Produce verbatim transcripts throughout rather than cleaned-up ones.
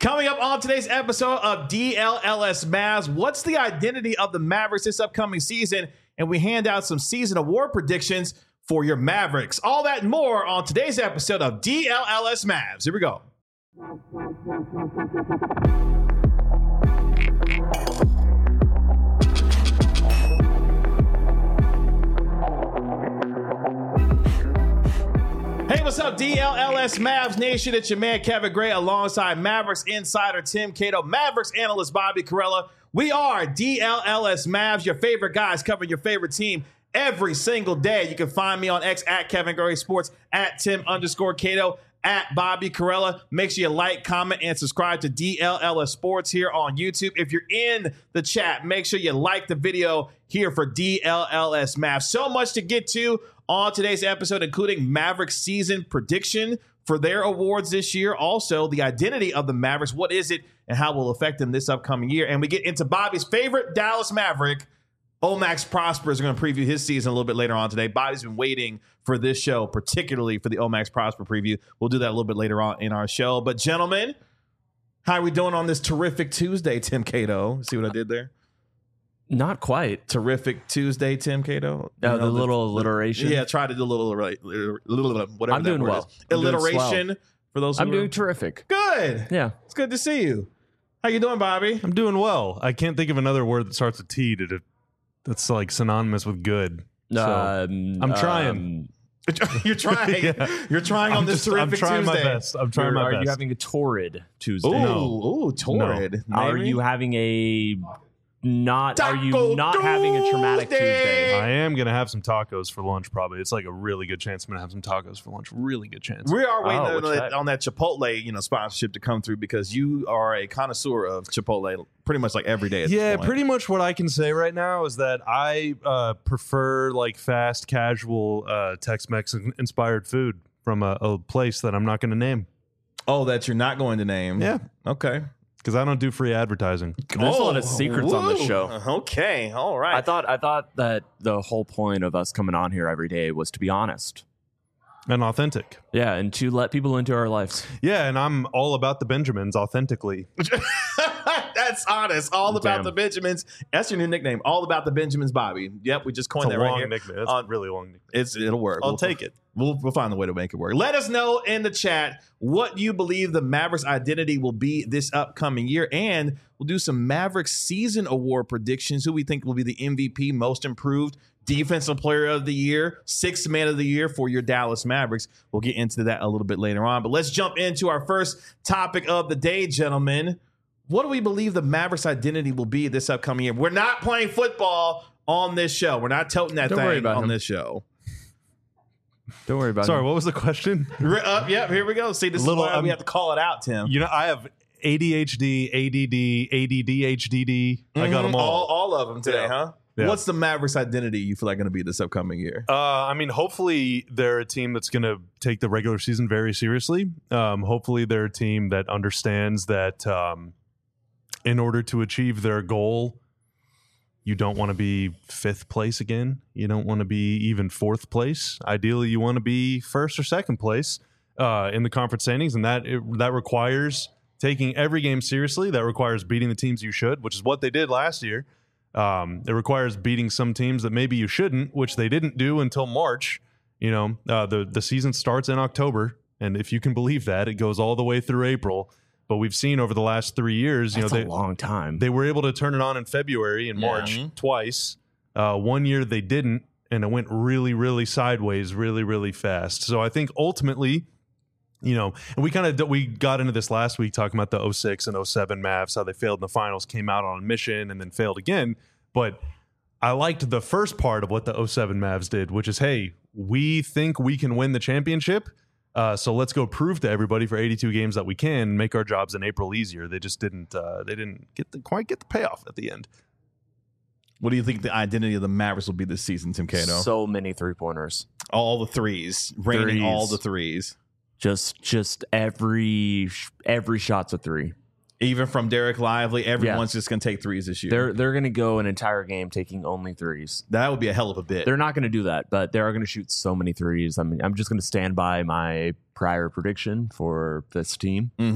Coming up on today's episode of D L L S Mavs, what's the identity of the Mavericks this upcoming season? And we hand out some season award predictions for your Mavericks. All that and more on today's episode of D L L S Mavs. Here we go. Hey, what's up, D L L S Mavs Nation? It's your man, Kevin Gray, alongside Mavericks insider Tim Cato, Mavericks analyst Bobby Karalla. We are D L L S Mavs, your favorite guys covering your favorite team every single day. You can find me on X at Kevin Gray Sports, at Tim underscore Cato, at Bobby Karalla. Make sure you like, comment, and subscribe to D L L S Sports here on YouTube. If you're in the chat, make sure you like the video here for D L L S Mavs. So much to get to on today's episode, including Mavericks season prediction for their awards this year. Also, the identity of the Mavericks. What is it and how will it affect them this upcoming year? And we get into Bobby's favorite Dallas Maverick, Omax Prosper, is going to preview his season a little bit later on today. Bobby's been waiting for this show, particularly for the Omax Prosper preview. We'll do that a little bit later on in our show. But gentlemen, how are we doing on this terrific Tuesday, Tim Cato? See what I did there? Not quite. Terrific Tuesday, Tim Cato. Uh, you know, the little the, alliteration. Yeah, try to do a little, little whatever. I'm doing that word well. is. Alliteration for those. Who I'm are, doing terrific. Good. Yeah, it's good to see you. How you doing, Bobby? I'm doing well. I can't think of another word that starts with T to, to that's like synonymous with good. So um, I'm trying. Um, You're trying. yeah. You're trying on I'm this just, terrific I'm trying Tuesday. my best. I'm trying You're, my are best. Are you having a torrid Tuesday? Ooh, no. ooh, torrid. No. Are you having a not? Taco are you not Tuesday. having a traumatic Tuesday? I am going to have some tacos for lunch, probably. It's like a really good chance I'm going to have some tacos for lunch. Really good chance. We are waiting Oh, on, that, on that Chipotle, you know, sponsorship to come through because you are a connoisseur of Chipotle pretty much like every day. At yeah, this point. pretty much what I can say right now is that I uh, prefer like fast, casual, uh, Tex-Mex inspired food from a, a place that I'm not going to name. Oh, that you're not going to name. Yeah. Okay. Because I don't do free advertising. There's oh, a lot of secrets woo. on this show. Okay, all right. I thought I thought that the whole point of us coming on here every day was to be honest. And authentic. Yeah, and to let people into our lives. Yeah, and I'm all about the Benjamins authentically. That's honest. All Damn. about the Benjamins. That's your new nickname. All about the Benjamins, Bobby. Yep, we just coined It's a that right long here. nickname. It's Uh, a really long nickname. It's it'll work. I'll We'll- take it. We'll we'll find a way to make it work. Let us know in the chat what you believe the Mavericks identity will be this upcoming year, and we'll do some Mavericks season award predictions. Who we think will be the M V P, most improved, defensive player of the year, sixth man of the year for your Dallas Mavericks. We'll get into that a little bit later on. But let's jump into our first topic of the day, gentlemen. What do we believe the Mavericks identity will be this upcoming year? We're not playing football on this show. We're not toting that Don't worry thing about on him. this show. Don't worry about Sorry, it. what was the question? We're up. Yep, here we go. See, this Little, is why um, we have to call it out, Tim. You know, I have A D H D, A D D, A D D, H D D. I got them Mhm. all. all. All of them today, Yeah. huh? Yeah. What's the Mavericks identity you feel like going to be this upcoming year? Uh, I mean, hopefully they're a team that's going to take the regular season very seriously. Um, hopefully they're a team that understands that um, in order to achieve their goal, you don't want to be fifth place again. You don't want to be even fourth place. Ideally, you want to be first or second place uh, in the conference standings, and that it, that requires taking every game seriously. That requires beating the teams you should, which is what they did last year. Um, it requires beating some teams that maybe you shouldn't, which they didn't do until March. You know, uh, the the season starts in October, and if you can believe that, it goes all the way through April. But we've seen over the last three years, you That's know, a they long time. they were able to turn it on in February and Yeah. March twice. Uh, one year they didn't, and it went really, really sideways, really, really fast. So I think ultimately, you know, and we kind of we got into this last week talking about the oh six and oh seven Mavs, how they failed in the finals, came out on a mission, and then failed again. But I liked the first part of what the oh seven Mavs did, which is, hey, we think we can win the championship. Uh, so let's go prove to everybody for eighty-two games that we can and make our jobs in April easier. They just didn't. Uh, they didn't get the, quite get the payoff at the end. What do you think the identity of the Mavericks will be this season, Tim Cato? So many three pointers. all the threes, raining Threes. all the threes, Just just every every shot's a three. even from Derek Lively. Everyone's just going to take threes this year. They're they're going to go an entire game taking only threes. that would be a hell of a bit. They're not going to do that, but they are going to shoot so many threes. I mean, I'm just going to stand by my prior prediction for this team. Mm-hmm.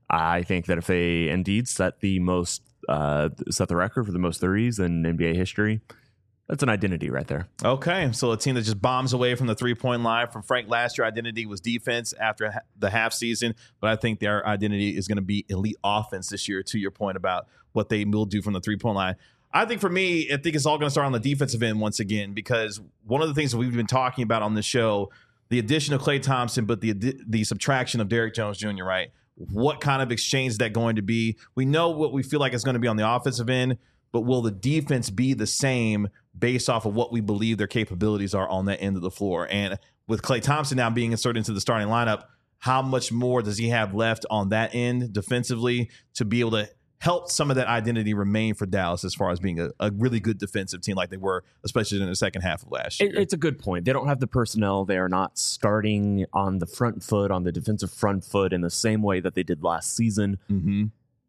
I think that if they indeed set the most, uh, set the record for the most threes in N B A history, that's an identity right there. Okay, so a team that just bombs away from the three-point line. From Frank last year, identity was defense after ha- the half season, but I think their identity is going to be elite offense this year, to your point about what they will do from the three-point line. I think for me, I think it's all going to start on the defensive end once again, because one of the things that we've been talking about on this show, the addition of Klay Thompson, but the the subtraction of Derrick Jones Junior, right? What kind of exchange is that going to be? We know what we feel like it's going to be on the offensive end, but will the defense be the same based off of what we believe their capabilities are on that end of the floor? And with Klay Thompson now being inserted into the starting lineup, how much more does he have left on that end defensively to be able to help some of that identity remain for Dallas as far as being a, a really good defensive team like they were, especially in the second half of last year? It, it's a good point. They don't have the personnel. They are not starting on the front foot, on the defensive front foot in the same way that they did last season. Mm-hmm.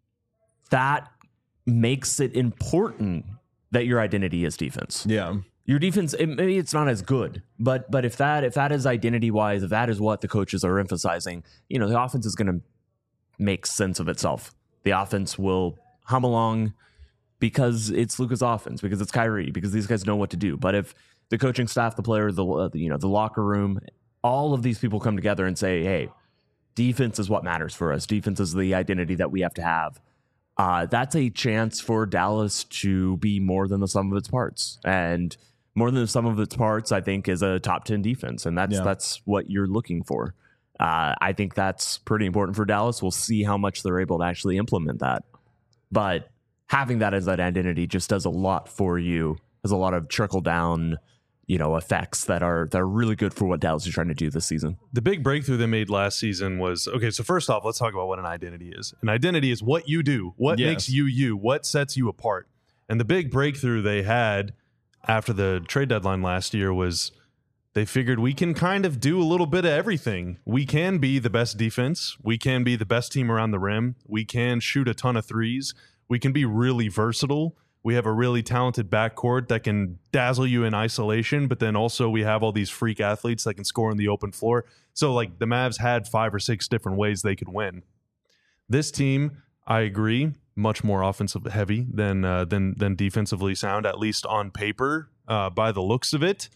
That makes it important that your identity is defense. Yeah. Your defense, it, maybe it's not as good, but but if that if that is identity wise, if that is what the coaches are emphasizing, you know, the offense is going to make sense of itself. The offense will hum along because it's Luka's offense, because it's Kyrie, because these guys know what to do. But if the coaching staff, the players, the uh, you know, the locker room, all of these people come together and say, "Hey, defense is what matters for us. Defense is the identity that we have to have." Uh, that's a chance for Dallas to be more than the sum of its parts. And more than the sum of its parts, I think, is a top ten defense. And that's Yeah. that's what you're looking for. Uh, I think that's pretty important for Dallas. We'll see how much they're able to actually implement that. But having that as that identity just does a lot for you. There's a lot of trickle down, you know, effects that are that are really good for what Dallas is trying to do this season. The big breakthrough they made last season was, okay, so first off, let's talk about what an identity is. An identity is what you do, what Yes. makes you you, what sets you apart. And the big breakthrough they had after the trade deadline last year was they figured we can kind of do a little bit of everything. We can be the best defense. We can be the best team around the rim. We can shoot a ton of threes. We can be really versatile. We have a really talented backcourt that can dazzle you in isolation, but then also we have all these freak athletes that can score on the open floor. So, like, the Mavs had five or six different ways they could win. This team, I agree, much more offensive heavy than uh, than than defensively sound, at least on paper, uh, by the looks of it.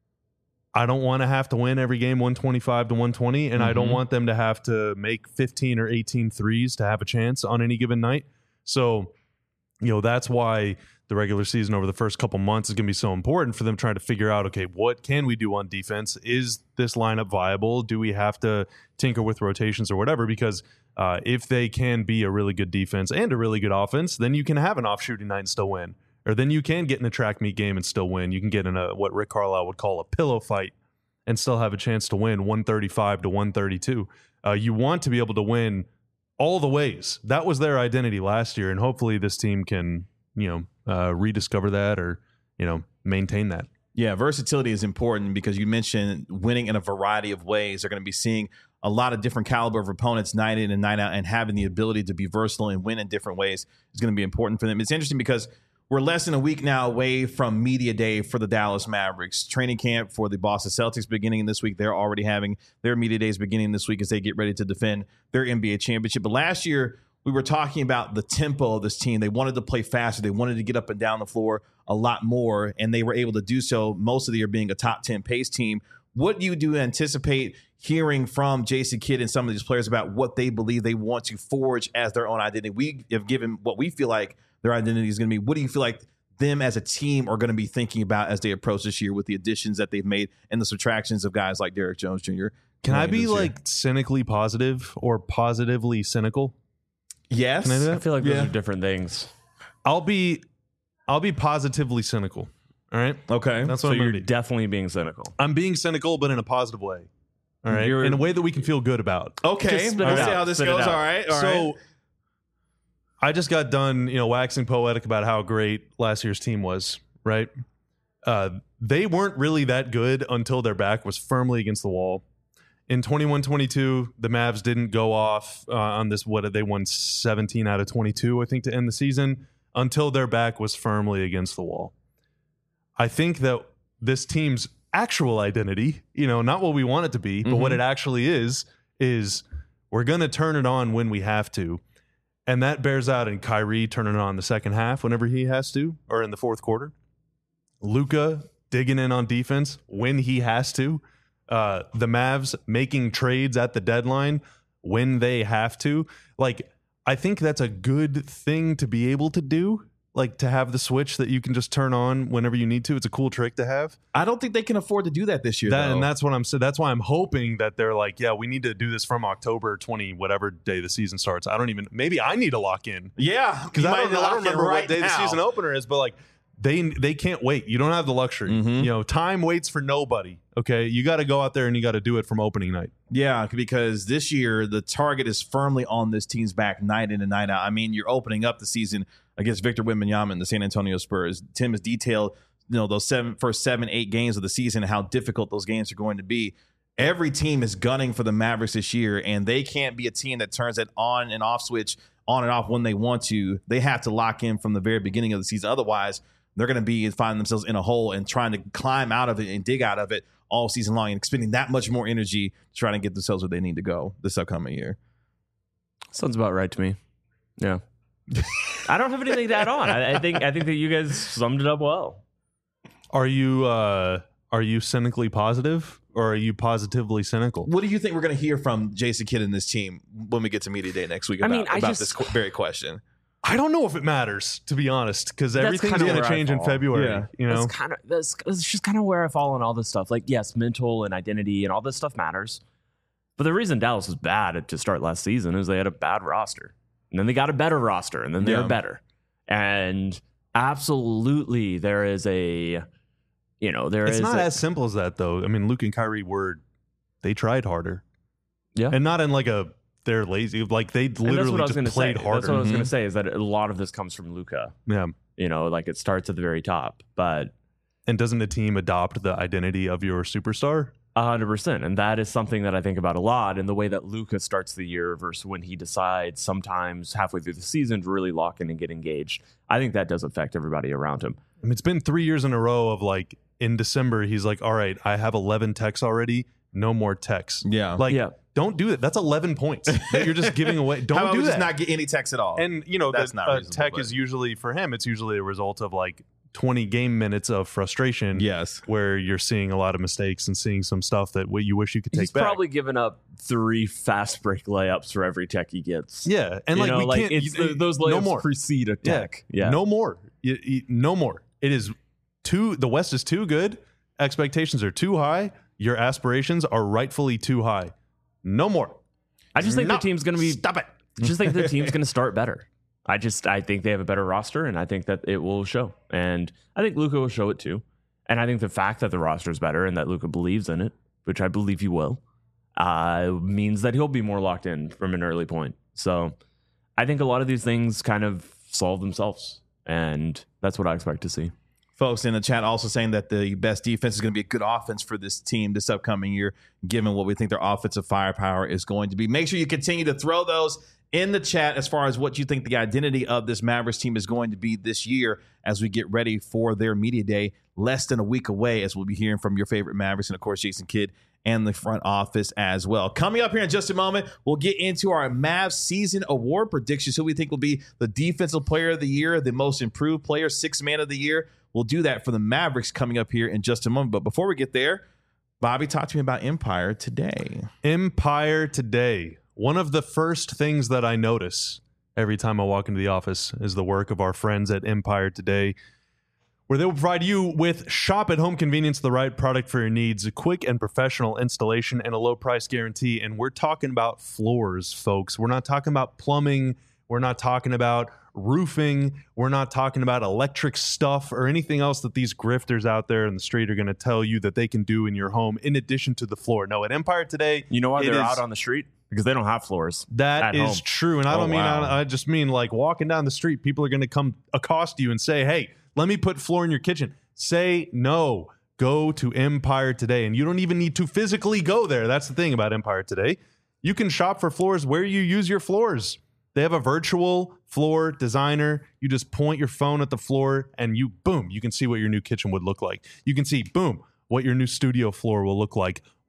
I don't want to have to win every game one twenty-five to one twenty, and mm-hmm. I don't want them to have to make fifteen or eighteen threes to have a chance on any given night. So, you know, that's why the regular season over the first couple months is going to be so important for them trying to figure out, okay, what can we do on defense? Is this lineup viable? Do we have to tinker with rotations or whatever? Because uh, if they can be a really good defense and a really good offense, then you can have an off shooting night and still win. Or then you can get in a track meet game and still win. You can get in a what Rick Carlisle would call a pillow fight and still have a chance to win one thirty-five to one thirty-two. Uh, you want to be able to win all the ways. That was their identity last year, and hopefully this team can, you know, uh, rediscover that or, you know, maintain that. Yeah, versatility is important because you mentioned winning in a variety of ways. They're going to be seeing a lot of different caliber of opponents night in and night out, and having the ability to be versatile and win in different ways is going to be important for them. It's interesting because we're less than a week now away from media day for the Dallas Mavericks. Training camp for the Boston Celtics beginning this week. They're already having their media days beginning this week as they get ready to defend their N B A championship. But last year, we were talking about the tempo of this team. They wanted to play faster. They wanted to get up and down the floor a lot more, and they were able to do so most of the year being a top ten pace team. What do you do anticipate hearing from Jason Kidd and some of these players about what they believe they want to forge as their own identity? We have given what we feel like their identity is going to be. What do you feel like them as a team are going to be thinking about as they approach this year with the additions that they've made and the subtractions of guys like Derrick Jones Junior? Can I be like cynically positive or positively cynical? Yes. Can I do that? I feel like those Yeah. are different things. I'll be I'll be positively cynical. All right. Okay. That's So what I'm you're gonna do. definitely being cynical. I'm being cynical, but in a positive way. All right. You're- in a way that we can feel good about. Okay. Just spit it We'll see out. how this Spit it goes. out. All right. All so right. I just got done, you know, waxing poetic about how great last year's team was, right? Uh, they weren't really that good until their back was firmly against the wall. In twenty-one twenty-two, the Mavs didn't go off uh, on this. What they won seventeen out of twenty-two, I think, to end the season until their back was firmly against the wall. I think that this team's actual identity, you know, not what we want it to be, but Mhm. what it actually is, is We're going to turn it on when we have to. And that bears out in Kyrie turning it on the second half whenever he has to, or in the fourth quarter. Luka digging in on defense when he has to. Uh, the Mavs making trades at the deadline when they have to. Like, I think that's a good thing to be able to do. Like, to have the switch that you can just turn on whenever you need to. It's a cool trick to have. I don't think they can afford to do that this year, That, though. and that's what I'm saying. That's why I'm hoping that they're like, yeah, we need to do this from October twentieth, whatever day the season starts. I don't even, maybe I need to lock in. Yeah, Because I don't, I don't remember right what day now. the season opener is, but like, they they can't wait. You don't have the luxury. Mhm. You know, time waits for nobody. Okay, you got to go out there and you got to do it from opening night. Yeah, because this year the target is firmly on this team's back night in and night out. I mean, you're opening up the season against Victor Wembanyama and the San Antonio Spurs. Tim has detailed, you know, those seven first seven, eight games of the season and how difficult those games are going to be. Every team is gunning for the Mavericks this year, and they can't be a team that turns that on and off switch on and off when they want to. They have to lock in from the very beginning of the season. Otherwise, they're going to be finding themselves in a hole and trying to climb out of it and dig out of it all season long and expending that much more energy trying to get themselves where they need to go this upcoming year. Sounds about right to me. Yeah. I don't have anything to add on. I, I think I think that you guys summed it up well. Are you uh, are you cynically positive or are you positively cynical? What do you think we're going to hear from Jason Kidd and this team when we get to media day next week I about, mean, I about just- this qu- very question? I don't know if it matters, to be honest, because That's everything's kinda going to where I change in fall. February. Yeah. You know, That's kind of that's, that's just kind of where I fall on all this stuff. Like, yes, mental and identity and all this stuff matters. But the reason Dallas was bad at- to start last season is they had a bad roster. And then they got a better roster, and then they Yeah. were better. And absolutely, there is a, you know, there it's is not a- as simple as that, though. I mean, Luke and Kyrie were, they tried harder. Yeah. And not in like a, they're lazy. Like, they and that's what literally I was just gonna played say. harder. That's what I was Mhm. going to say is that a lot of this comes from Luka. Yeah. You know, like it starts at the very top, but And doesn't the team adopt the identity of your superstar? A hundred percent. And that is something that I think about a lot in the way that Luka starts the year versus when he decides sometimes halfway through the season to really lock in and get engaged. I think that does affect everybody around him. I mean, it's been three years in a row of like, in December, he's like, all right, I have eleven techs already. No more techs. Yeah. Like, Yeah. don't do that. That's eleven points that you're just giving away. Don't How about do we that. just not get any text at all? And, you know, That's the, not uh, reasonable, tech but- is usually, for him, it's usually a result of like twenty game minutes of frustration. yes. Where you're seeing a lot of mistakes and seeing some stuff that what you wish you could take He's back. probably given up three fast break layups for every tech he gets. yeah, and You like know, we like can't. it's you- the, those layups no more. precede a Yeah. tech. Yeah. No more. You- you- no more. It is too. The West is too good. Expectations are too high. Your aspirations are rightfully too high. No more. I just think No. the team's going to be. Stop it. I just think the team's going to start better. I just I think they have a better roster, and I think that it will show. And I think Luka will show it too. And I think the fact that the roster is better and that Luka believes in it, which I believe he will, uh, means that he'll be more locked in from an early point. So I think a lot of these things kind of solve themselves, and that's what I expect to see. Folks in the chat also saying that the best defense is going to be a good offense for this team this upcoming year, given what we think their offensive firepower is going to be. Make sure you continue to throw those in the chat as far as what you think the identity of this Mavericks team is going to be this year as we get ready for their media day less than a week away, as we'll be hearing from your favorite Mavericks and, of course, Jason Kidd and the front office as well. Coming up here in just a moment, we'll get into our Mavs season award predictions, who we think will be the defensive player of the year, the most improved player, sixth man of the year. We'll do that for the Mavericks coming up here in just a moment. But before we get there, Bobby, talk to me about Empire Today. Empire Today. One of the first things that I notice every time I walk into the office is the work of our friends at Empire Today, where they will provide you with shop at home convenience, the right product for your needs, a quick and professional installation, and a low price guarantee. And we're talking about floors, folks. We're not talking about plumbing. We're not talking about roofing. We're not talking about electric stuff or anything else that these grifters out there in the street are going to tell you that they can do in your home in addition to the floor. No, at Empire Today, You know why it they're is- out on the street? Because they don't have floors. that at is home. true. And I Oh, don't mean, wow. I, I just mean like walking down the street, people are going to come accost you and say, hey, let me put floor in your kitchen. Say no. Go to Empire Today. And you don't even need to physically go there. That's the thing about Empire Today. You can shop for floors where you use your floors. They have a virtual floor designer. You just point your phone at the floor and you, boom, you can see what your new kitchen would look like. You can see, boom, what your new studio floor will look like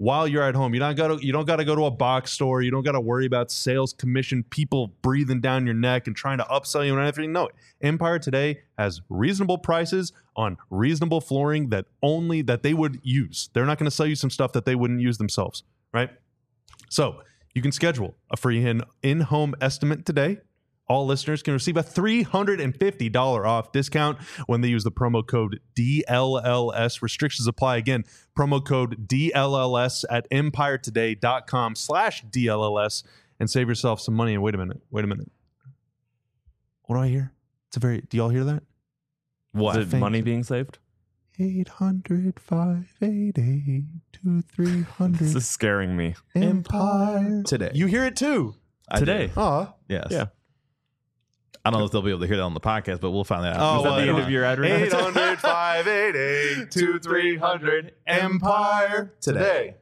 while you're at home. You don't got to you don't got to go to a box store. You don't got to worry about sales commission people breathing down your neck and trying to upsell you and everything. No, Empire Today has reasonable prices on reasonable flooring that only that they would use. They're not going to sell you some stuff that they wouldn't use themselves, right? So you can schedule a free in- in-home estimate today. All listeners can receive a three hundred fifty dollars off discount when they use the promo code D L L S. Restrictions apply. Again, promo code D L L S at empiretoday.com slash DLLS and save yourself some money. And wait a minute. Wait a minute. What do I hear? It's a very, do y'all hear that? What? Is it Thank money you. being saved? eight hundred, five eight eight, two three hundred This is scaring me. Empire Today. You hear it too. I Today. do. Aw. Yes. Yeah. I don't know if they'll be able to hear that on the podcast, but we'll find that out. Oh, Is that well, the end yeah. of your ad read? eight hundred, five eight eight, two three hundred Empire Today.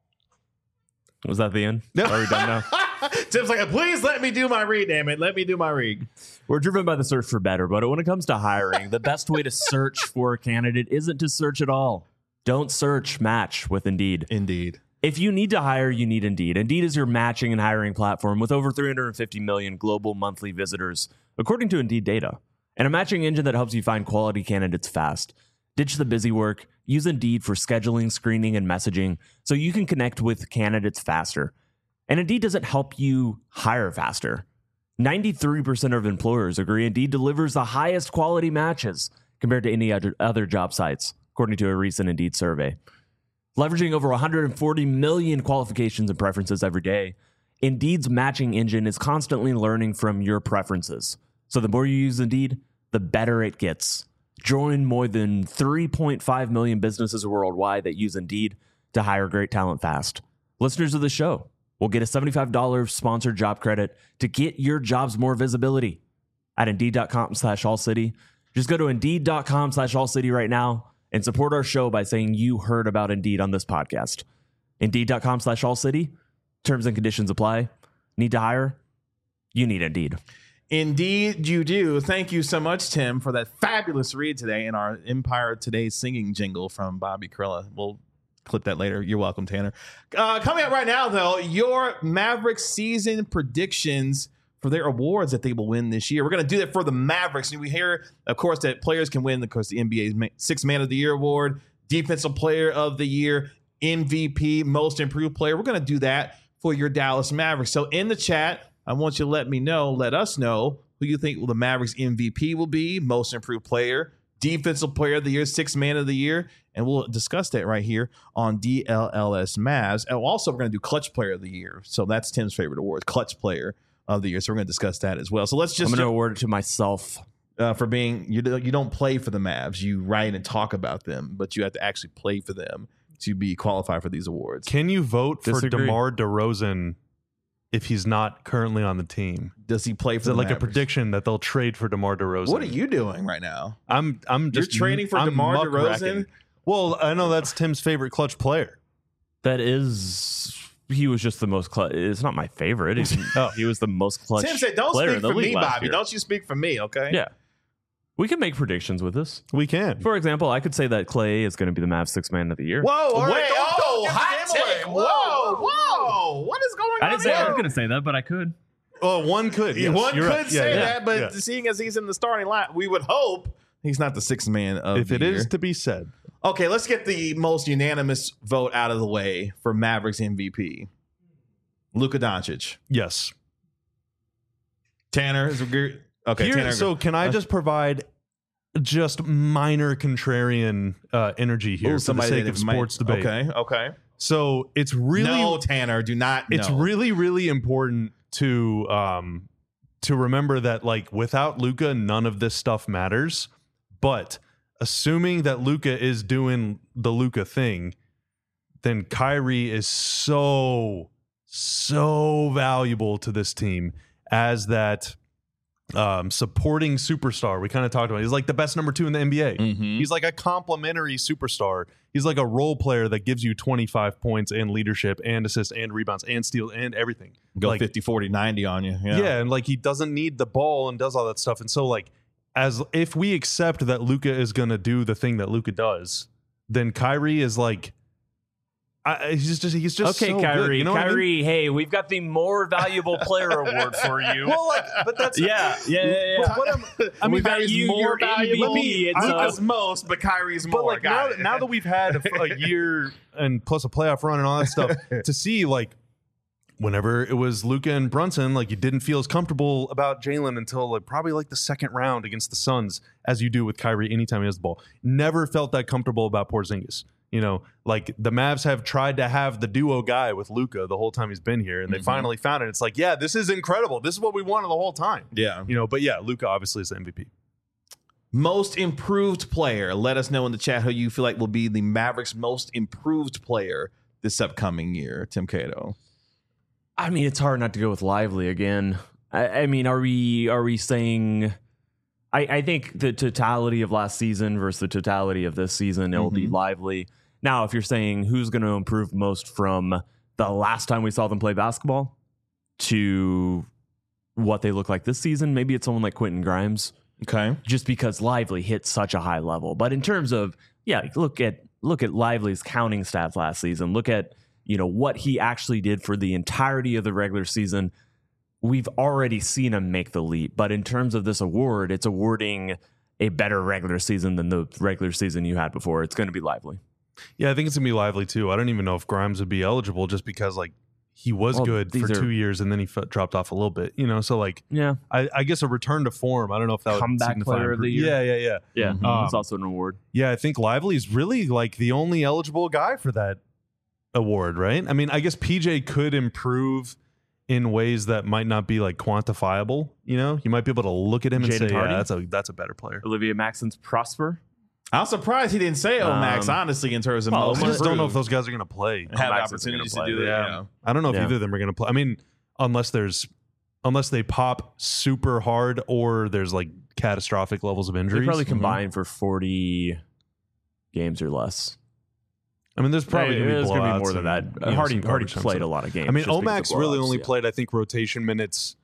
Was that the end? Are we done now? Tim's like, please let me do my read, damn it. Let me do my read. We're driven by the search for better, but when it comes to hiring, the best way to search for a candidate isn't to search at all. Don't search, match with Indeed. Indeed. If you need to hire, you need Indeed. Indeed is your matching and hiring platform with over three hundred fifty million global monthly visitors, according to Indeed data, and a matching engine that helps you find quality candidates fast. Ditch the busy work. Use Indeed for scheduling, screening, and messaging so you can connect with candidates faster. And Indeed doesn't help you hire faster. ninety-three percent of employers agree Indeed delivers the highest quality matches compared to any other, other job sites, according to a recent Indeed survey. Leveraging over one hundred forty million qualifications and preferences every day, Indeed's matching engine is constantly learning from your preferences. So the more you use Indeed, the better it gets. Join more than three point five million businesses worldwide that use Indeed to hire great talent fast. Listeners of the show will get a seventy-five dollars sponsored job credit to get your jobs more visibility at Indeed.com slash All City. Just go to Indeed.com slash All City right now and support our show by saying you heard about Indeed on this podcast. Indeed.com slash All City. Terms and conditions apply. Need to hire? You need Indeed. Indeed, you do. Thank you so much, Tim, for that fabulous read today in our Empire Today singing jingle from Bobby Karalla. We'll clip that later. You're welcome, Tanner. Uh, coming up right now, though, your Mavericks season predictions for their awards that they will win this year. We're going to do that for the Mavericks. And we hear, of course, that players can win, of course, the N B A's Sixth Man of the Year award, Defensive Player of the Year, M V P, Most Improved Player. We're going to do that for your Dallas Mavericks. So in the chat, I want you to let me know, let us know who you think the Mavericks M V P will be, Most Improved Player, Defensive Player of the Year, Sixth Man of the Year, and we'll discuss that right here on D L L S Mavs. And also, we're going to do Clutch Player of the Year. So that's Tim's favorite award, Clutch Player of the Year. So we're going to discuss that as well. So let's just I'm going to award it to myself. Uh, for being you. You don't play for the Mavs. You write and talk about them, but you have to actually play for them to be qualified for these awards. Can you vote for Disagree. DeMar DeRozan if he's not currently on the team? Does he play for Is it the like Mavericks? a prediction that they'll trade for DeMar DeRozan? What are you doing right now? I'm I'm You're just trading for I'm DeMar muckraking. DeRozan? Well, I know that's Tim's favorite clutch player. That is, he was just the most clutch. It's not my favorite. He's, Oh. He was the most clutch Tim said, "Don't player speak in the for me, league last Bobby. year. Don't you speak for me, okay?" Yeah. We can make predictions with this. We can. For example, I could say that Clay is going to be the Mavs Sixth Man of the Year. Whoa! All right, Wait, don't- oh, don't give the hot game away. take. Whoa! Whoa! What is going on? I didn't say I here? was going to say that, but I could. Oh, one could. Yeah, Yes, one could you're right. say Yeah, yeah, that, but yeah. seeing as he's in the starting line, we would hope he's not the sixth man of if the it year. is to be said, Okay, let's get the most unanimous vote out of the way for Mavericks M V P. Luka Doncic. yes. Tanner is agree. Okay, Here- Tanner. so can I just provide just minor contrarian uh, energy here Ooh, for the somebody sake that of might- sports debate? Okay, okay. So it's really no, Tanner, do not. it's no. really really important to um to remember that, like, without Luka, none of this stuff matters. But assuming that Luka is doing the Luka thing, then Kyrie is so so valuable to this team as that um supporting superstar. We kind of talked about it. He's like the best number two in the N B A. Mhm. He's like a complimentary superstar. He's like a role player that gives you twenty-five points and leadership and assists and rebounds and steals and everything. Go like, fifty, forty, ninety on you. Yeah. yeah. And like he doesn't need the ball and does all that stuff. And so, like, as if we accept that Luka is gonna do the thing that Luka does, then Kyrie is like, I, he's just he's just okay, so Kyrie. good, you know what I mean? Kyrie, hey, we've got the more valuable player award for you. Well, like, but that's yeah, yeah, yeah. yeah. But what I'm, I mean, We've got Kyrie's you, more your valuable. M V P. It's, Luka's uh, most, but Kyrie's more. but like Got now, it. now that we've had a, a year and plus a playoff run and all that stuff, to see like whenever it was Luka and Brunson, like you didn't feel as comfortable about Jalen until like probably like the second round against the Suns as you do with Kyrie anytime he has the ball. Never felt that comfortable about Porzingis. You know, like the Mavs have tried to have the duo guy with Luka the whole time he's been here, and they Mhm. finally found it. It's like, yeah, this is incredible. This is what we wanted the whole time. yeah. You know, but yeah, Luka obviously is the M V P. Most improved player. Let us know in the chat who you feel like will be the Mavericks' most improved player this upcoming year. Tim Cato. I mean, it's hard not to go with Lively again. I, I mean, are we are we saying? I, I think the totality of last season versus the totality of this season, it will be Mhm. Lively. Now, if you're saying who's going to improve most from the last time we saw them play basketball to what they look like this season, maybe it's someone like Quentin Grimes, Okay. just because Lively hit such a high level. But in terms of, yeah, look at look at Lively's counting stats last season. Look at, you know, what he actually did for the entirety of the regular season. We've already seen him make the leap. But in terms of this award, it's awarding a better regular season than the regular season you had before. It's going to be Lively. Yeah, I think it's gonna be Lively too. I don't even know if Grimes would be eligible just because like he was Well, good for these are- two years and then he f- dropped off a little bit. You know, so like Yeah. I, I guess a return to form. I don't know if that would Comeback signify player of the improve- year. Yeah, yeah, yeah. Yeah. Mhm. It's also an award. Yeah, I think Lively is really like the only eligible guy for that award, right? I mean, I guess P J could improve in ways that might not be like quantifiable. You know, you might be able to look at him and Jaden say, Hardy? "Yeah, that's a that's a better player." Olivia Maxon's Prosper. I'm surprised he didn't say Omax, Um, honestly, in terms of well, most I just don't know if improved. those guys are going to play. have Omax isn't opportunities to gonna do play. that. Yeah. Yeah. I don't know if Yeah. either of them are going to play. I mean, unless there's unless they pop super hard or there's like catastrophic levels of They injuries. probably Mhm. combine for forty games or less. I mean, there's probably Hey, going to be there's gonna blowouts be more than that. and, you know, Hardy some Hardy garbage time played stuff. a lot of games. I mean, just because Omax of really blowouts, only yeah. played, I think, rotation minutes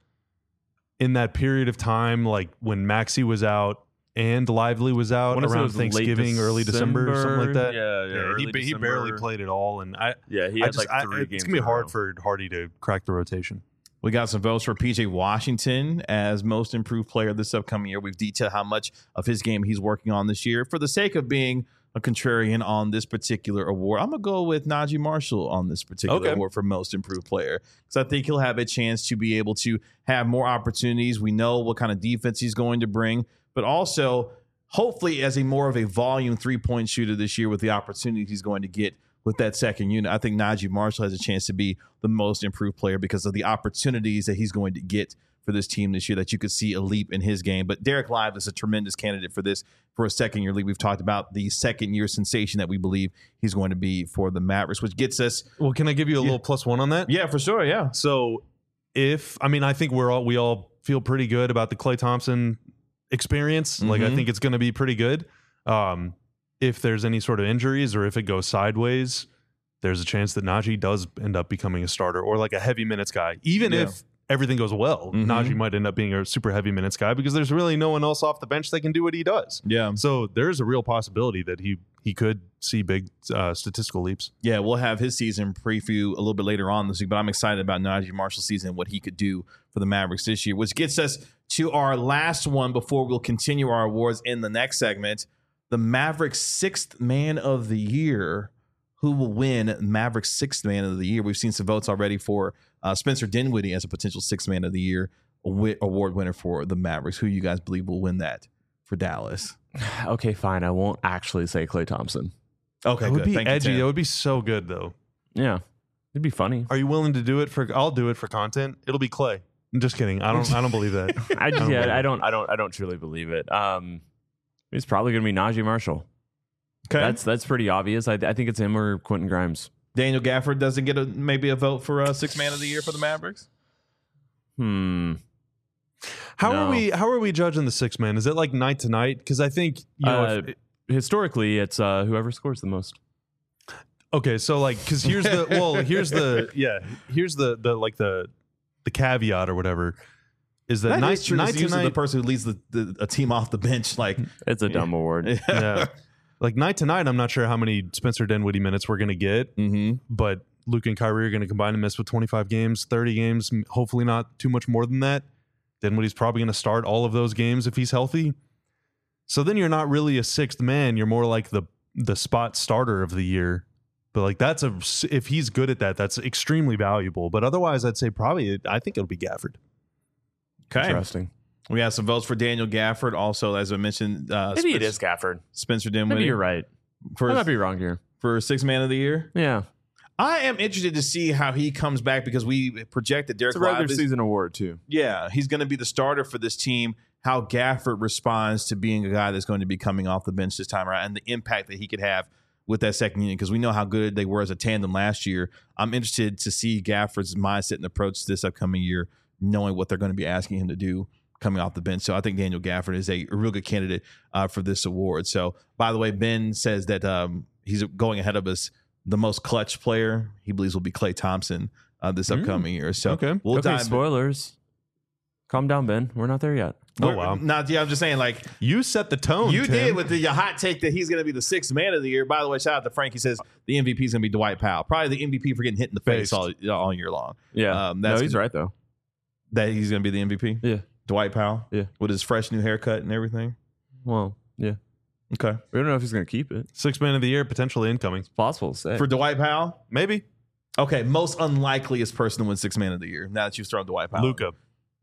in that period of time, like when Maxey was out and Lively was out Wanna say it around was late Thanksgiving, early December, something like that. Yeah, yeah. Yeah, early he, ba- he December. barely played at all, and I, Yeah, he I had just, like I- three games. it's gonna be in a hard row. for Hardy to crack the rotation. We got some votes for P J Washington as most improved player this upcoming year. We've detailed how much of his game he's working on this year. For the sake of being a contrarian on this particular award, I'm going to go with Najee Marshall on this particular Okay. award for most improved player, because I think he'll have a chance to be able to have more opportunities. We know what kind of defense he's going to bring, but also hopefully as a more of a volume three-point shooter this year with the opportunities he's going to get with that second unit. I think Najee Marshall has a chance to be the most improved player because of the opportunities that he's going to get for this team this year, that you could see a leap in his game. But Derek Lively is a tremendous candidate for this, for a second year league. We've talked about the second year sensation that we believe he's going to be for the Mavericks, which gets us. Well, can I give you a little plus one on that? Yeah, for sure. Yeah. So if I mean, I think we're all we all feel pretty good about the Klay Thompson experience. Like I Mhm. think it's going to be pretty good. Um, if there's any sort of injuries or if it goes sideways, there's a chance that Najee does end up becoming a starter or like a heavy minutes guy. Even Yeah. if everything goes well, Mhm. Najee might end up being a super heavy minutes guy because there's really no one else off the bench that can do what he does. Yeah. So there's a real possibility that he he could see big uh, statistical leaps. Yeah, we'll have his season preview a little bit later on this week, but I'm excited about Najee Marshall's season and what he could do for the Mavericks this year, which gets us to our last one before we'll continue our awards in the next segment. The Mavericks sixth man of the year. Who will win Mavericks sixth man of the year? We've seen some votes already for uh, Spencer Dinwiddie as a potential sixth man of the year wi- award winner for the Mavericks. Who you guys believe will win that for Dallas? Okay, fine. I won't actually say Klay Thompson. Okay, It would good. be Thank you, edgy. Tim. It would be so good though. Yeah, it'd be funny. Are you willing to do it for? I'll do it for content. It'll be Klay. I'm just kidding. I don't. I don't believe that. I just, I don't believe yeah, I it. don't, I don't, I don't truly believe it. Um, it's probably gonna be Najee Marshall. Okay. That's that's pretty obvious. I, I think it's him or Quentin Grimes. Daniel Gafford doesn't get a maybe a vote for uh, sixth man of the year for the Mavericks. Hmm. How No. are we? How are we judging the six man? Is it like night to night? Because I think you know. Uh, if, Historically, it's uh, whoever scores the most. okay, so like, because here's the well, here's the yeah, here's the the like the the caveat or whatever is that, That night is true. night It's to usually night. the person who leads the, the, a team off the bench. Like, It's a dumb award. Yeah. like night to night, I'm not sure how many Spencer Dinwiddie minutes we're going to get, Mm-hmm. but Luke and Kyrie are going to combine and miss with twenty-five games, thirty games, hopefully not too much more than that. Dinwiddie's probably going to start all of those games if he's healthy. So then you're not really a sixth man. You're more like the the spot starter of the year. But like that's a if he's good at that, that's extremely valuable. But otherwise, I'd say probably I think it'll be Gafford. Okay. Interesting. We have some votes for Daniel Gafford. Also, as I mentioned, uh, Maybe it Spencer, is Gafford. Spencer Dinwiddie. Maybe you're right. For, I might be wrong here. for sixth man of the year. Yeah. I am interested to see how he comes back because we projected Derek It's a regular Lively. season award too. Yeah, he's going to be the starter for this team. How Gafford responds to being a guy that's going to be coming off the bench this time around and the impact that he could have with that second unit because we know how good they were as a tandem last year. I'm interested to see Gafford's mindset and approach this upcoming year, knowing what they're going to be asking him to do coming off the bench. So I think Daniel Gafford is a, a real good candidate uh, for this award. So, by the way, Ben says that um, he's going ahead of us. The most clutch player he believes will be Klay Thompson uh, this upcoming year. So Okay. we'll okay, dive. spoilers. Calm down, Ben. We're not there yet. Oh, We're- wow. Not yeah. I'm just saying, like You set the tone. you Tim. did with the your hot take that he's going to be the sixth man of the year. By the way, shout out to Frank. He says the M V P is going to be Dwight Powell, probably the M V P for getting hit in the face Based. all, all year long. Yeah. Um, no, that's he's gonna- right, though. That he's going to be the M V P. Yeah. Dwight Powell. Yeah. with his fresh new haircut and everything. Well, yeah. Okay, We don't know if he's going to keep it. Sixth man of the year, potentially incoming. It's possible to say. for Dwight Powell. Maybe. Okay, most unlikeliest person to win sixth man of the year. Now that you've thrown Dwight Powell, Luka.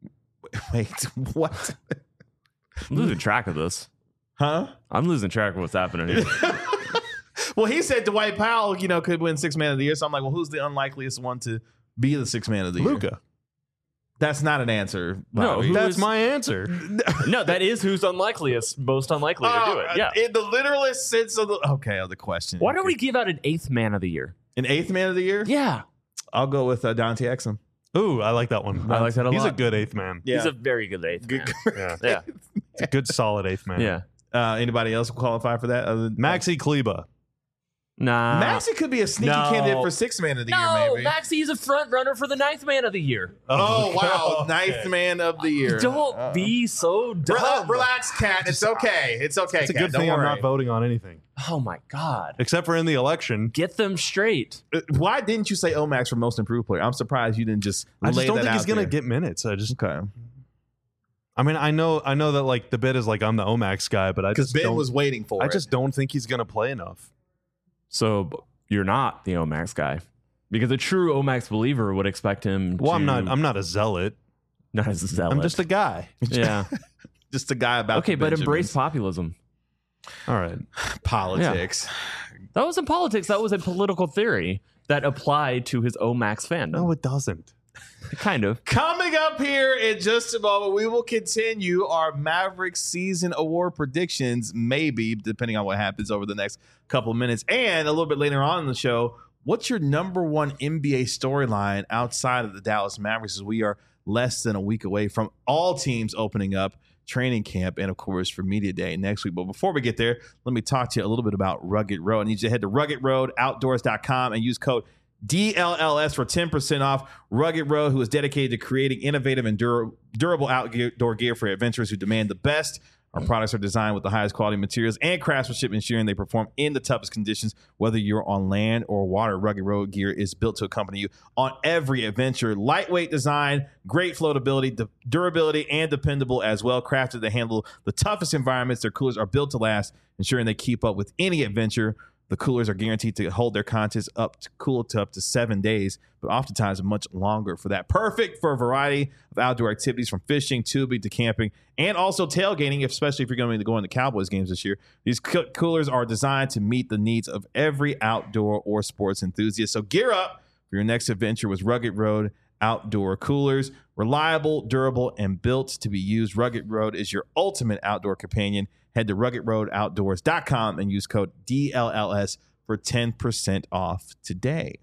Wait, what? I'm losing track of this. Huh? I'm losing track of what's happening here. Well, he said Dwight Powell, you know, could win sixth man of the year. So I'm like, well, who's the unlikeliest one to be the sixth man of the year? Luka. That's not an answer. No, Bobby. who That's is- my answer. No, that is who's unlikeliest, most unlikely to do Oh, it. Yeah. In the literalist sense of the okay of the question. Why don't we give out an eighth man of the year? an eighth man of the year? Yeah. I'll go with uh, Dante Exum. Ooh, I like that one. I like that a He's lot. a good eighth man. Yeah. He's a very good eighth Good- man. Yeah. Yeah. It's a good, solid eighth man. Yeah. Uh, anybody else qualify for that? Other than Maxi Kleba. Nah. Maxi could be a sneaky No. candidate for sixth man of the no, year, maybe. Maxi is a front runner for the ninth man of the year. oh wow, okay. ninth man of the year. Don't Uh, be so dumb. Relax, relax, Cat. It's okay. It's okay. It's a Kat. good Don't thing I'm worry. not voting on anything. Oh my God. Except for in the election. Get them straight. Uh, Why didn't you say Omax for most improved player? I'm surprised you didn't just. I just lay don't that think he's out gonna there. get minutes. I just Okay. I mean, I know I know that like the bit is like I'm the Omax guy, but I Because just Ben don't was waiting for I it. just don't think he's gonna play enough. So b- you're not the Omax guy. Because a true Omax believer would expect him Well, to I'm not I'm not a zealot. not as a zealot. I'm just a guy. yeah. just a guy about. Okay, the but embrace Benjamins. populism. All right. politics. That wasn't politics. That was a political theory that applied to his Omax fandom. No, it doesn't. Kind of. Coming up here in just a moment, we will continue our Mavericks season award predictions, maybe, depending on what happens over the next couple of minutes. And a little bit later on in the show, what's your number one N B A storyline outside of the Dallas Mavericks as we are less than a week away from all teams opening up training camp and, of course, for Media Day next week. But before we get there, let me talk to you a little bit about Rugged Road. I need you to head to rugged road outdoors dot com and use code D L L S for ten percent off. Rugged Road, who is dedicated to creating innovative and dur- durable outdoor gear for adventurers who demand the best. Our products are designed with the highest quality materials and craftsmanship, ensuring they perform in the toughest conditions, whether you're on land or water. Rugged Road gear is built to accompany you on every adventure. Lightweight design, great floatability, du- durability, and dependable as well. Crafted to handle the toughest environments, their coolers are built to last, ensuring they keep up with any adventure. The coolers are guaranteed to hold their contents up to cool to up to seven days, but oftentimes much longer for that. Perfect for a variety of outdoor activities from fishing, tubing to camping, and also tailgating, especially if you're going to be going to Cowboys games this year. These co- coolers are designed to meet the needs of every outdoor or sports enthusiast. So gear up for your next adventure with Rugged Road Outdoor Coolers. Reliable, durable, and built to be used. Rugged Road is your ultimate outdoor companion. Head to rugged road outdoors dot com and use code D L L S for ten percent off today.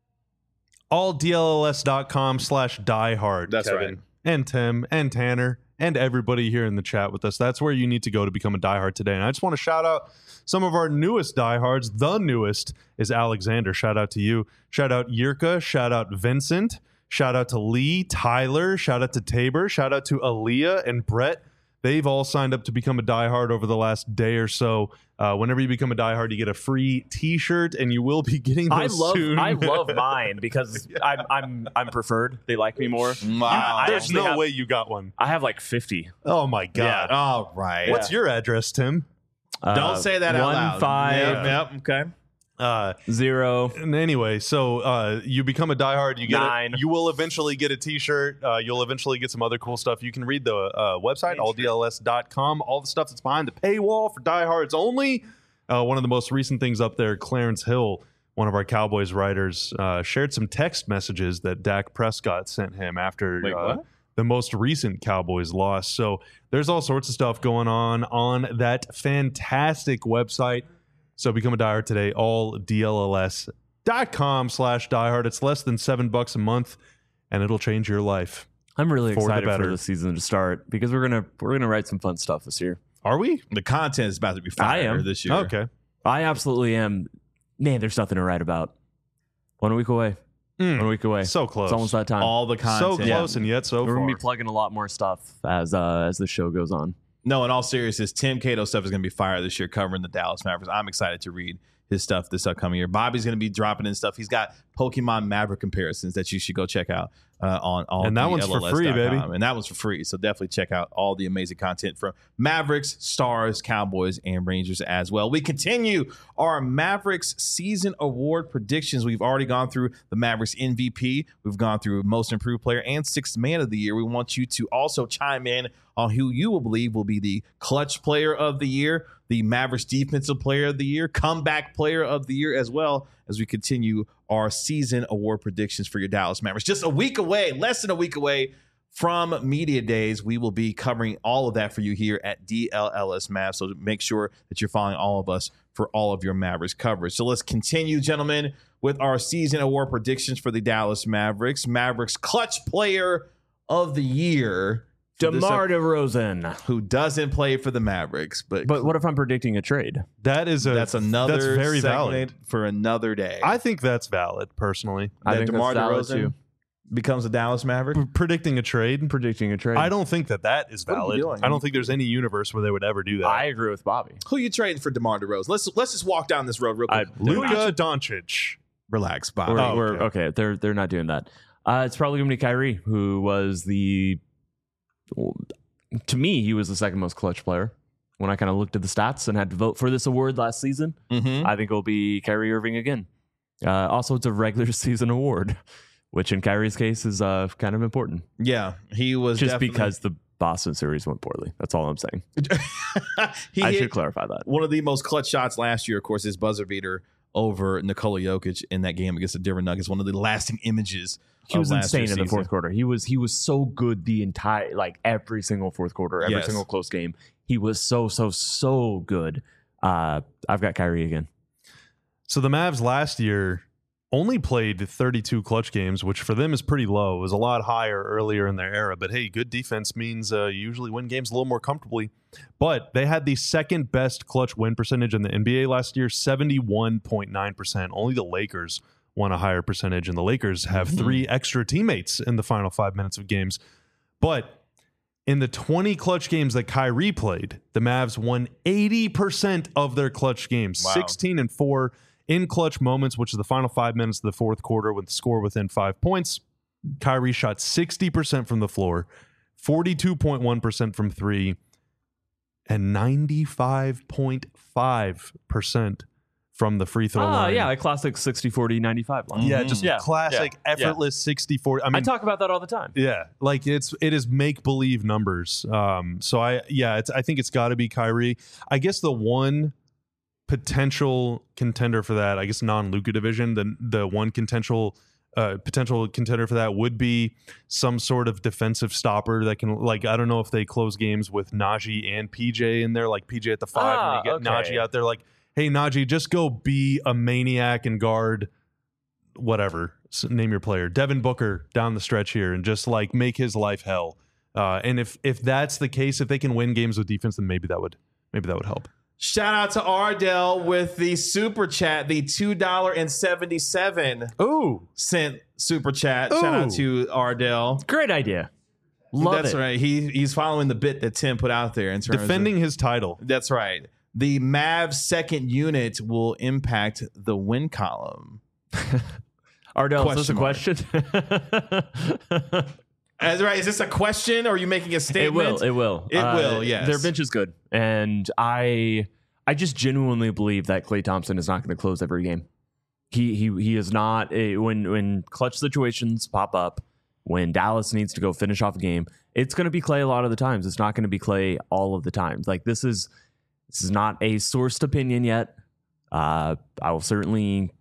All D L L S dot com slash diehard. That's Kevin, right. And Tim and Tanner and everybody here in the chat with us. That's where you need to go to become a diehard today. And I just want to shout out some of our newest diehards. The newest is Alexander. Shout out to you. Shout out Yirka. Shout out Vincent. Shout out to Lee, Tyler. Shout out to Tabor. Shout out to Aaliyah and Brett. They've all signed up to become a diehard over the last day or so. Uh, whenever you become a diehard, you get a free T-shirt, and you will be getting those I love soon. I love mine because I'm I'm I'm preferred. They like me more. Wow. I There's actually no have- way you got one. I have like fifty. Oh my god! All right. What's your address, Tim? Uh, Don't say that out one, loud. five, Yep, yep, okay. Uh, zero. and anyway, so uh, you become a diehard. You get Nine. A, you will eventually get a T-shirt. Uh, you'll eventually get some other cool stuff. You can read the uh, website all d l s dot com. All the stuff that's behind the paywall for diehards only. Uh, one of the most recent things up there, Clarence Hill, one of our Cowboys writers, uh, shared some text messages that Dak Prescott sent him after Wait, uh, what? the most recent Cowboys loss. So there's all sorts of stuff going on on that fantastic website. So become a diehard today, all d l l s dot com slash diehard. It's less than seven bucks a month, and it'll change your life. I'm really For the excited for better. the season to start because we're gonna we're gonna write some fun stuff this year. Are we? The content is about to be fire I am. this year. Okay. I absolutely am. Man, there's nothing to write about. One week away. One week away. So close. It's almost that time. All the so content. close and yet so We're far. gonna be plugging a lot more stuff as uh, as the show goes on. No, in all seriousness, Tim Cato stuff is going to be fire this year covering the Dallas Mavericks. I'm excited to read his stuff this upcoming year. Bobby's going to be dropping in stuff. He's got Pokemon Maverick comparisons that you should go check out uh, on all And that one's for free, baby. And that one's for free. So definitely check out all the amazing content from Mavericks, Stars, Cowboys, and Rangers as well. We continue our Mavericks season award predictions. We've already gone through the Mavericks M V P. We've gone through most improved player and sixth man of the year. We want you to also chime in on who you will believe will be the clutch player of the year, the Mavericks defensive player of the year, comeback player of the year, as well as we continue our season award predictions for your Dallas Mavericks. Just a week away, less than a week away from Media Days. We will be covering all of that for you here at D L L S Mavs. So make sure that you're following all of us for all of your Mavericks coverage. So let's continue, gentlemen, with our season award predictions for the Dallas Mavericks. Mavericks clutch player of the year. for this DeMar up- DeRozan. who doesn't play for the Mavericks, but But what if I'm predicting a trade? That is a that's another that's very segment valid. for another day. I think that's valid personally. I that think DeMar that's valid DeRozan too. becomes a Dallas Maverick. P- predicting a trade. Predicting a trade. I don't think that that is What are you valid. doing? I don't think there's any universe where they would ever do that. I agree with Bobby. Who you trading for DeMar DeRozan? Let's let's just walk down this road real quick. I- Luka Doncic. Relax, Bob. We're, Oh, we're okay. okay. They're they're not doing that. Uh, it's probably gonna be Kyrie, who was the. To me, he was the second most clutch player. When I kind of looked at the stats and had to vote for this award last season, Mhm. I think it'll be Kyrie Irving again. Uh, also, it's a regular season award, which in Kyrie's case is uh, kind of important, Yeah, he was just definitely- because the Boston series went poorly. That's all I'm saying. he I hit should clarify that. one of the most clutch shots last year. Of course, his buzzer beater over Nikola Jokic in that game against the Denver Nuggets. One of the lasting images. He was of last insane year's in the season. fourth quarter. He was he was so good the entire like every single fourth quarter, every Yes. single close game. He was so so so good. Uh, I've got Kyrie again. So the Mavs last year only played thirty-two clutch games, which for them is pretty low. It was a lot higher earlier in their era. But hey, good defense means uh, you usually win games a little more comfortably. But they had the second best clutch win percentage in the N B A last year, seventy-one point nine percent. Only the Lakers won a higher percentage, and the Lakers have three extra teammates in the final five minutes of games. But in the twenty clutch games that Kyrie played, the Mavs won eighty percent of their clutch games, Wow. sixteen and four in clutch moments, which is the final five minutes of the fourth quarter with the score within five points. Kyrie shot sixty percent from the floor, forty-two point one percent from three, and ninety-five point five percent from the free throw Oh line. yeah, a classic sixty forty ninety-five line. Yeah, Mhm. just Yeah, classic, yeah, yeah. effortless sixty forty. I I mean, talk about that all the time. yeah, like it's it is make believe numbers. Um, so I yeah, it's I think it's got to be Kyrie. I guess the one potential contender for that, I guess non-Luka division, the the one potential uh, potential contender for that would be some sort of defensive stopper that can, like, I don't know if they close games with Najee and P J in there, like P J at the five, Ah, and you get okay. Najee out there, like, hey Najee, just go be a maniac and guard whatever, s- name your player, Devin Booker down the stretch here, and just like make his life hell. Uh, and if if that's the case, if they can win games with defense, then maybe that would maybe that would help. Shout out to Ardell with the super chat, the two dollars and seventy-seven Ooh, cent super chat. Shout out Ooh. to Ardell. Great idea. Love That's it. right. He he's following the bit that Tim put out there in terms Defending of, his title. That's right. The Mavs second unit will impact the win column. Ardell, is this a Question question? That's right. Is this a question or are you making a It statement? will. It will. It will, yes. Their bench is good, and I, I just genuinely believe that Klay Thompson is not going to close every game. He he he is not a, when when clutch situations pop up, when Dallas needs to go finish off a game. It's going to be Klay a lot of the times. It's not going to be Klay all of the times. Like this is this is not a sourced opinion yet. Uh, I will certainly,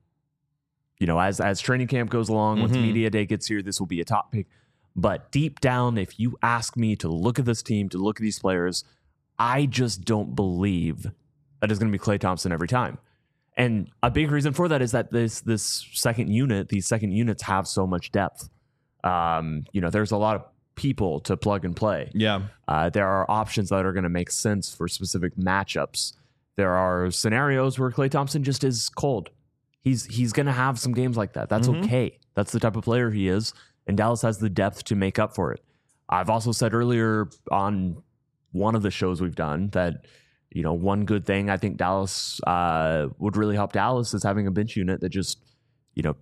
you know, as as training camp goes along, once Mhm. media day gets here, this will be a top pick. But deep down, if you ask me to look at this team, to look at these players, I just don't believe that it's going to be Klay Thompson every time. And a big reason for that is that this this second unit, these second units have so much depth. Um, you know, there's a lot of people to plug and play. Yeah. Uh, there are options that are going to make sense for specific matchups. There are scenarios where Klay Thompson just is cold. He's he's going to have some games like that. That's Mhm. okay. That's the type of player he is. And Dallas has the depth to make up for it. I've also said earlier on one of the shows we've done that, you know, one good thing I think Dallas uh, would really help Dallas is having a bench unit that just, you know,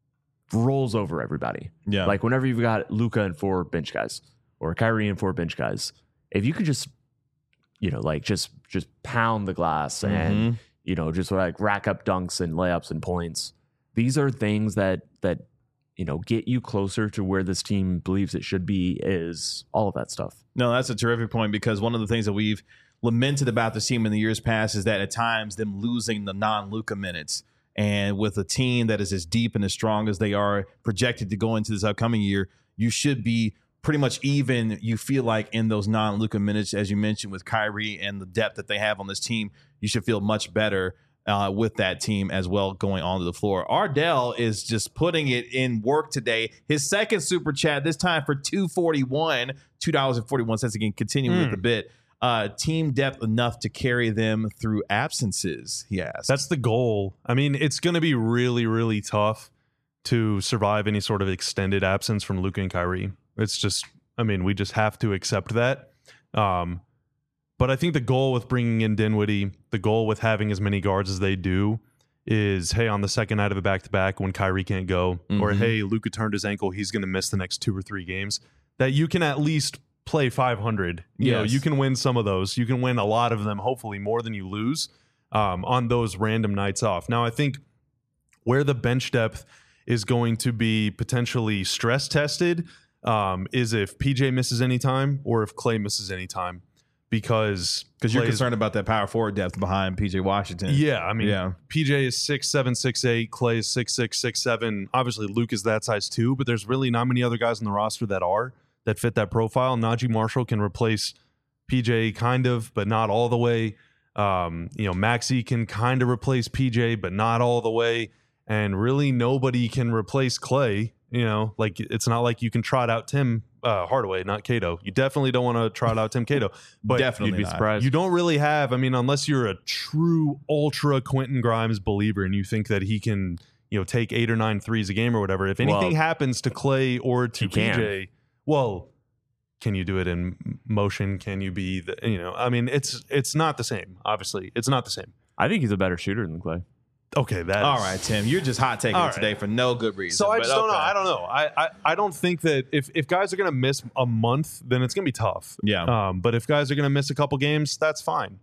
rolls over everybody. Yeah. Like whenever you've got Luka and four bench guys or Kyrie and four bench guys, if you could just, you know, like just just pound the glass and, Mhm. you know, just like rack up dunks and layups and points. These are things that that you know, get you closer to where this team believes it should be, is all of that stuff. No, that's a terrific point because one of the things that we've lamented about this team in the years past is that at times them losing the non-Luka minutes. And with a team that is as deep and as strong as they are projected to go into this upcoming year, you should be pretty much even, you feel like, in those non-Luka minutes, as you mentioned, with Kyrie and the depth that they have on this team, you should feel much better Uh, with that team as well going onto the floor. Ardell is just putting it in work today. His second super chat, this time for two forty-one, two dollars and forty-one cents. Again, continuing Mm. with the bit. Uh, team depth enough to carry them through absences, he asked. That's the goal. I mean, it's going to be really, really tough to survive any sort of extended absence from Luka and Kyrie. It's just, I mean, we just have to accept that. Um, But I think the goal with bringing in Dinwiddie, the goal with having as many guards as they do is, hey, on the second night of a back-to-back when Kyrie can't go, Mhm. or hey, Luka turned his ankle, he's going to miss the next two or three games, that you can at least play five hundred. You know, Yes. you can win some of those. You can win a lot of them, hopefully more than you lose um, on those random nights off. Now, I think where the bench depth is going to be potentially stress tested um, is if P J misses any time or if Klay misses any time. Because because you're Klay is- concerned about that power forward depth behind P J Washington. Yeah, I mean, Yeah. P J is six seven, six eight. Klay is six six, six seven. Obviously, Luke is that size too, but there's really not many other guys on the roster that are that fit that profile. Najee Marshall can replace P J kind of, but not all the way. Um, you know, Maxey can kind of replace P J, but not all the way. And really, nobody can replace Klay. You know, like it's not like you can trot out Tim uh, Hardaway, not Cato. You definitely don't want to trot out Tim Cato, but Definitely You'd be not. surprised. you don't really have. I mean, unless you're a true ultra Quentin Grimes believer and you think that he can, you know, take eight or nine threes a game or whatever. If anything Well, happens to Klay or to he can. P J, well, can you do it in motion? Can you be the? You know, I mean, it's it's not the same. Obviously, it's not the same. I think he's a better shooter than Klay. Okay, that All is- right, Tim, you're just hot taking All it right. today for no good reason. So I but just don't know. okay. I don't know. I, I I don't think that if if guys are going to miss a month, then it's going to be tough. Yeah. Um, but if guys are going to miss a couple games, that's fine.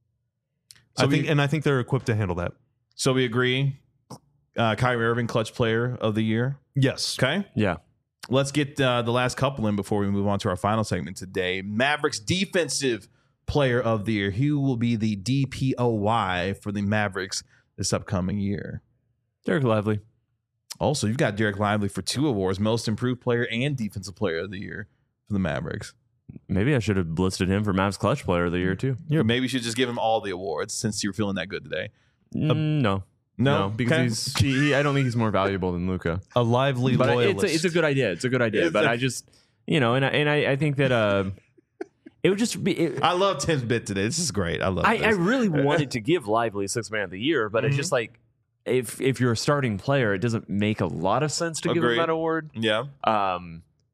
So I think, we- and I think they're equipped to handle that. So we agree. Uh, Kyrie Irving, clutch player of the year. Yes. Okay. Yeah. Let's get uh, the last couple in before we move on to our final segment today. Mavericks defensive player of the year. Who will be the D P O Y for the Mavericks this upcoming year? Derek Lively. Also, you've got Derek Lively for two awards, most improved player and defensive player of the year for the Mavericks. Maybe I should have listed him for Mavs clutch player of the year too. Or maybe you should just give him all the awards since you're feeling that good today. Mm, no. No, because Okay. he's he, he- I don't think he's more valuable than Luka. A lively But I- loyalist. it's a, it's a good idea. It's a good idea. It's but a- I just you know, and I, and I, I think that uh, it would just be. It, I love Tim's bit today. This is great. I love I, this. I really wanted to give Lively sixth man of the year, but it's just like if if you're a starting player, it doesn't make a lot of sense to give Agreed. him that award. yeah. Um,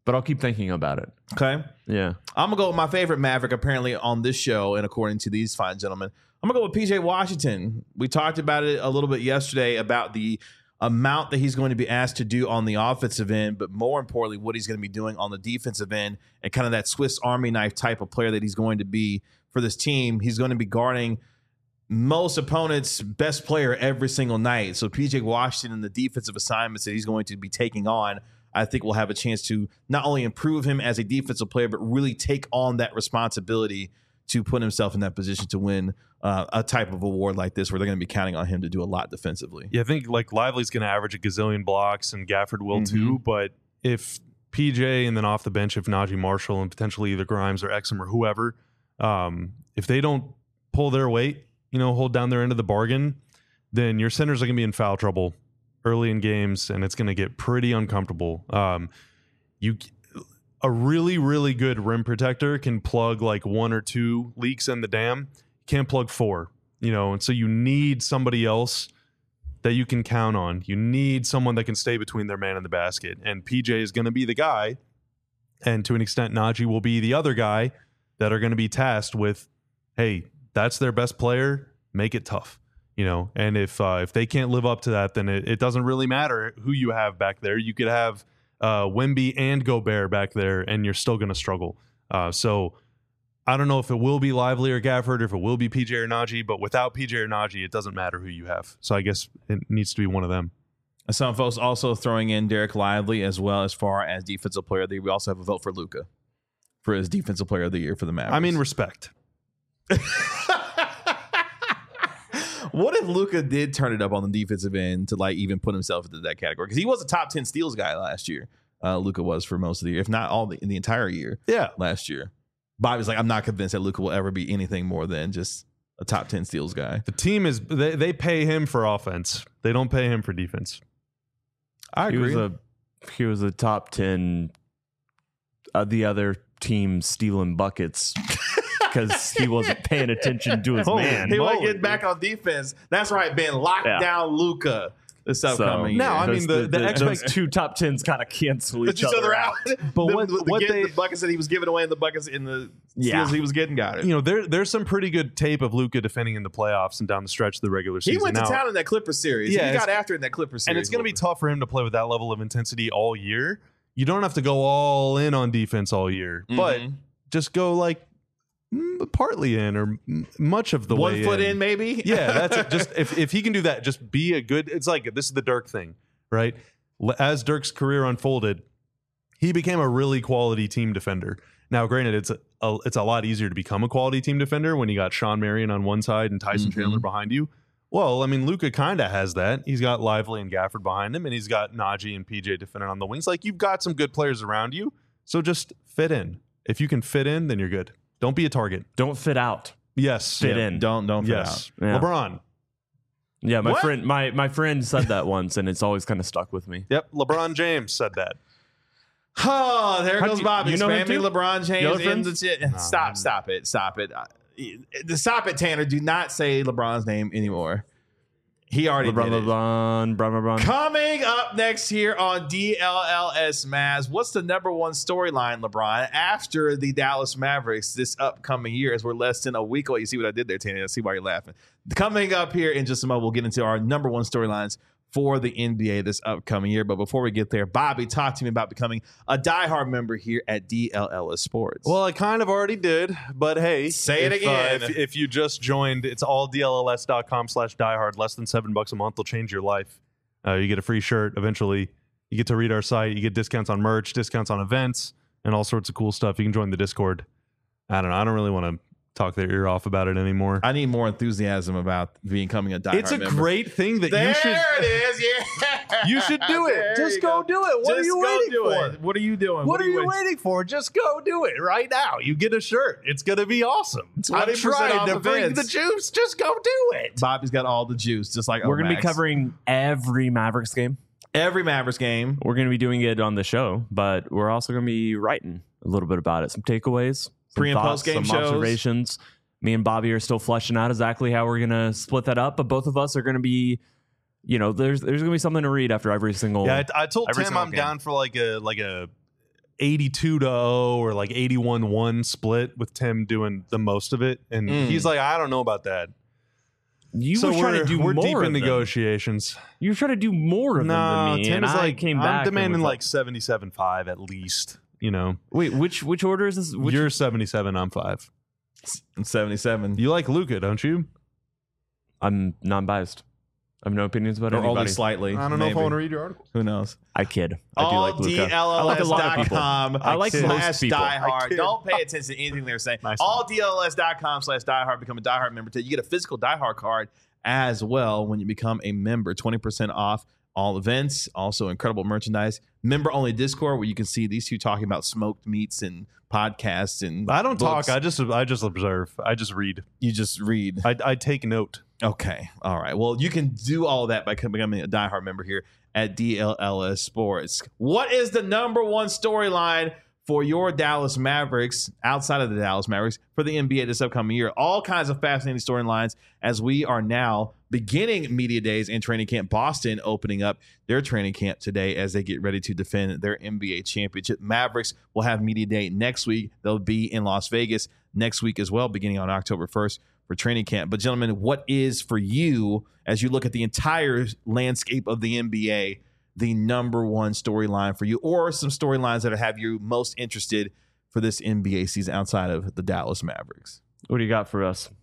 but I'll keep thinking about it. Okay. Yeah. I'm going to go with my favorite Maverick, apparently, on this show, and according to these fine gentlemen. I'm going to go with P J Washington. We talked about it a little bit yesterday about the amount that he's going to be asked to do on the offensive end, but more importantly, what he's going to be doing on the defensive end and kind of that Swiss Army knife type of player that he's going to be for this team. He's going to be guarding most opponents' best player every single night. So P J Washington and the defensive assignments that he's going to be taking on, I think will have a chance to not only improve him as a defensive player, but really take on that responsibility to put himself in that position to win uh, a type of award like this, where they're going to be counting on him to do a lot defensively. Yeah, I think like Lively's going to average a gazillion blocks, and Gafford will Mm-hmm. too. But if P J and then off the bench, if Najee Marshall and potentially either Grimes or Exum or whoever, um, if they don't pull their weight, you know, hold down their end of the bargain, then your centers are going to be in foul trouble early in games, and it's going to get pretty uncomfortable. Um, you, a really, really good rim protector can plug like one or two leaks in the dam. Can't plug four, you know, and so you need somebody else that you can count on. You need someone that can stay between their man and the basket, and P J is going to be the guy, and to an extent, Najee will be the other guy that are going to be tasked with, hey, that's their best player, make it tough. You know, and if uh, if they can't live up to that, then it, it doesn't really matter who you have back there. You could have uh, Wemby and Gobert back there, and you're still going to struggle. Uh, so I don't know if it will be Lively or Gafford, or if it will be P J or Najee, but without P J or Najee, it doesn't matter who you have. So I guess it needs to be one of them. Some folks also throwing in Derek Lively as well as far as defensive player of the year. We also have a vote for Luka for his defensive player of the year for the Mavericks. I mean, respect. What if Luka did turn it up on the defensive end to like even put himself into that category? Because he was a top ten steals guy last year. Uh, Luka was for most of the year, if not all the in the entire year. Yeah, last year. Bobby's like, I'm not convinced that Luka will ever be anything more than just a top ten steals guy. the team is they, they pay him for offense. They don't pay him for defense. I He agree. was a he was a top ten. Uh, the other team stealing buckets because he wasn't paying attention to his Oh, man. he wasn't moly, getting back on defense. That's right, Ben. Lock Yeah. down Luka this upcoming Now, year. I mean, Those- the- the those expect- two top tens kind of cancel Put each other out. But the, what- the, what the, they- the buckets that he was giving away and the buckets in the Yeah. steals he was getting got it. You know, there there's some pretty good tape of Luka defending in the playoffs and down the stretch of the regular season. He went to Now- town in that Clippers series. Yeah, he got it's- after it in that Clippers series. and it's going to be tough for him to play with that level of intensity all year. You don't have to go all in on defense all year, but Mhm. just go like mm, partly in or m- much of the one way foot in, maybe. Yeah, that's it. Just if, if he can do that, just be a good. It's like this is the Dirk thing, right? L- As Dirk's career unfolded, he became a really quality team defender. Now, granted, it's a, a it's a lot easier to become a quality team defender when you got Sean Marion on one side and Tyson Mhm. Chandler behind you. Well, I mean, Luka kind of has that. He's got Lively and Gafford behind him, and he's got Najee and P J defending on the wings. Like, you've got some good players around you, so just fit in. If you can fit in, then you're good. Don't be a target. Don't fit out. Yes. Fit Yeah, in. Don't don't fit Yes. out. Yeah. LeBron. Yeah, my What? friend, my my friend said that once, and it's always kind of stuck with me. Yep. LeBron James said that. Oh, there How'd goes you- Bobby. you know him Spamming too? LeBron You James know in friends? the shit. Stop, stop it, stop it. Uh, Stop it, Tanner. Do not say LeBron's name anymore. He already LeBron, did it. LeBron, LeBron, LeBron. Coming up next here on D L L S Mavs, what's the number one storyline, LeBron, after the Dallas Mavericks this upcoming year as we're less than a week away? You see what I did there, Tanner? I see why you're laughing. Coming up here in just a moment, we'll get into our number one storylines for the N B A this upcoming year. But before we get there, Bobby, talk to me about becoming a diehard member here at D L L S Sports. Well, I kind of already did, but hey, Say it if, uh, again. if, if you just joined, it's all D L L S dot com slash diehard. Less than seven bucks a month will change your life. Uh, you get a free shirt eventually. You get to read our site. You get discounts on merch, discounts on events, and all sorts of cool stuff. You can join the Discord. I don't know. I don't really want to talk their ear off about it anymore. I need more enthusiasm about becoming a diehard It's a member. great thing that There you should. it is. Yeah. You should do it. There Just you go, do it. What Just are you go waiting do for? it. What are you doing? What, are you waiting? waiting for? Just go do it right now. You get a shirt. It's going to be awesome. I'm twenty percent trying off to bring events. the juice. Just go do it. Bobby's got all the juice, just like We're going to be Omax. covering every Mavericks game. every Mavericks game. We're going to be doing it on the show, but we're also going to be writing a little bit about it. Some takeaways, some Pre- and thoughts, post-game some shows. observations. Me and Bobby are still fleshing out exactly how we're going to split that up, but both of us are going to be, you know, there's there's going to be something to read after every single. Yeah, I, I told every Tim single I'm game. down for like a like a eighty-two to oh or like eighty-one one split with Tim doing the most of it. And Mm. he's like, I don't know about that. You so were trying to do we're more deep of in them. negotiations. You were trying to do more of No, them than me. Tim and is I like, came I'm back and demanding was like seventy-seven five at least, you know. Wait, which which order is this? Which, You're seventy-seven, I'm five. I'm seventy-seven. You like Luka, don't you? I'm non-biased. I have no opinions about Or anybody. only slightly. I don't know if I maybe. want to read your article. Who knows? I kid. I do like Luka. I like a lot of people. com I like most slash people. I diehard. kid. Don't pay attention to anything they're saying. Nice all D L S dot com slash diehard. Become a diehard member today. You get a physical diehard card as well when you become a member. twenty percent off all events. Also incredible merchandise. Member only Discord where you can see these two talking about smoked meats and podcasts and I don't books. talk. I just I just observe. I just read. You just read. I, I take note. Okay. All right. Well, you can do all of that by becoming a diehard member here at D L L S Sports. What is the number one storyline for your Dallas Mavericks outside of the Dallas Mavericks for the N B A this upcoming year? All kinds of fascinating storylines as we are now beginning media days and training camp. Boston opening up their training camp today as they get ready to defend their N B A championship. Mavericks will have media day next week. They'll be in Las Vegas next week as well, beginning on October first. For training camp. But gentlemen, what is for you, as you look at the entire landscape of the N B A, the number one storyline for you, or some storylines that have you most interested for this N B A season outside of the Dallas Mavericks? What do you got for us?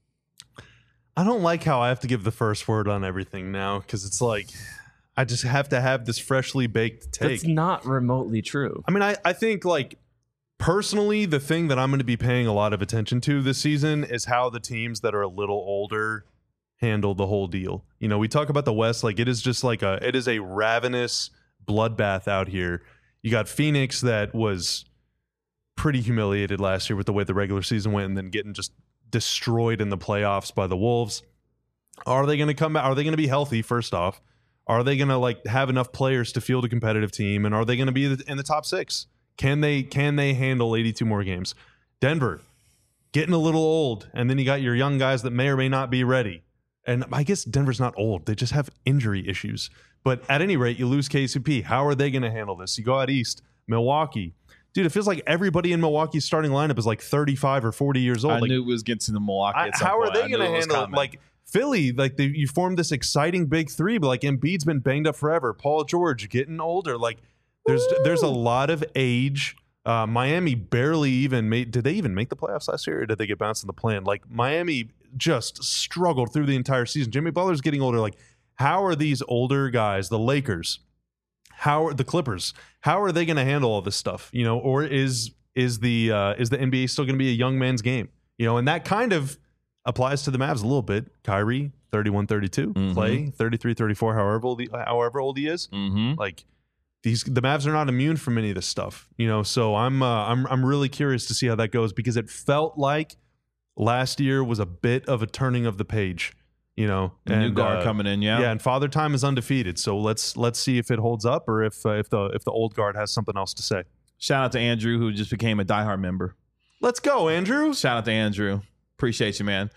I don't like how I have to give the first word on everything now because it's like I just have to have this freshly baked take. That's not remotely true. I mean, I, I think like personally, the thing that I'm going to be paying a lot of attention to this season is how the teams that are a little older handle the whole deal. You know, we talk about the West like it is just like a it is a ravenous bloodbath out here. You got Phoenix that was pretty humiliated last year with the way the regular season went and then getting just destroyed in the playoffs by the Wolves. Are they going to come back? Are they going to be healthy first off? Are they going to like have enough players to field a competitive team, and are they going to be in the top six? Can they can they handle eighty-two more games? Denver, getting a little old, and then you got your young guys that may or may not be ready. And I guess Denver's not old. They just have injury issues. But at any rate, you lose K C P. How are they going to handle this? You go out east, Milwaukee. Dude, it feels like everybody in Milwaukee's starting lineup is like thirty-five or forty years old. I like, knew it was getting to the Milwaukee I, at some how point. are I they knew going to it was handle it? coming. Like Philly, like they, you formed this exciting big three, but like Embiid's been banged up forever. Paul George getting older. Like there's Woo! there's a lot of age. Uh, Miami barely even made. Did they even make the playoffs last year, or did they get bounced in the plan? Like Miami just struggled through the entire season. Jimmy Butler's getting older. Like, how are these older guys, the Lakers, how are the Clippers? How are they going to handle all this stuff? You know, or is is the uh, is the N B A still going to be a young man's game? You know, and that kind of applies to the Mavs a little bit. Kyrie, thirty-one, thirty-two. Mm-hmm. Clay, thirty-three, thirty-four. However old, he, however old he is. Mm-hmm. Like. These, the Mavs are not immune from any of this stuff, you know. So I'm, uh, I'm, I'm really curious to see how that goes because it felt like last year was a bit of a turning of the page, you know. The and, new guard uh, coming in, yeah. yeah. And Father Time is undefeated, so let's let's see if it holds up or if uh, if the if the old guard has something else to say. Shout out to Andrew who just became a diehard member. Let's go, Andrew. Shout out to Andrew. Appreciate you, man.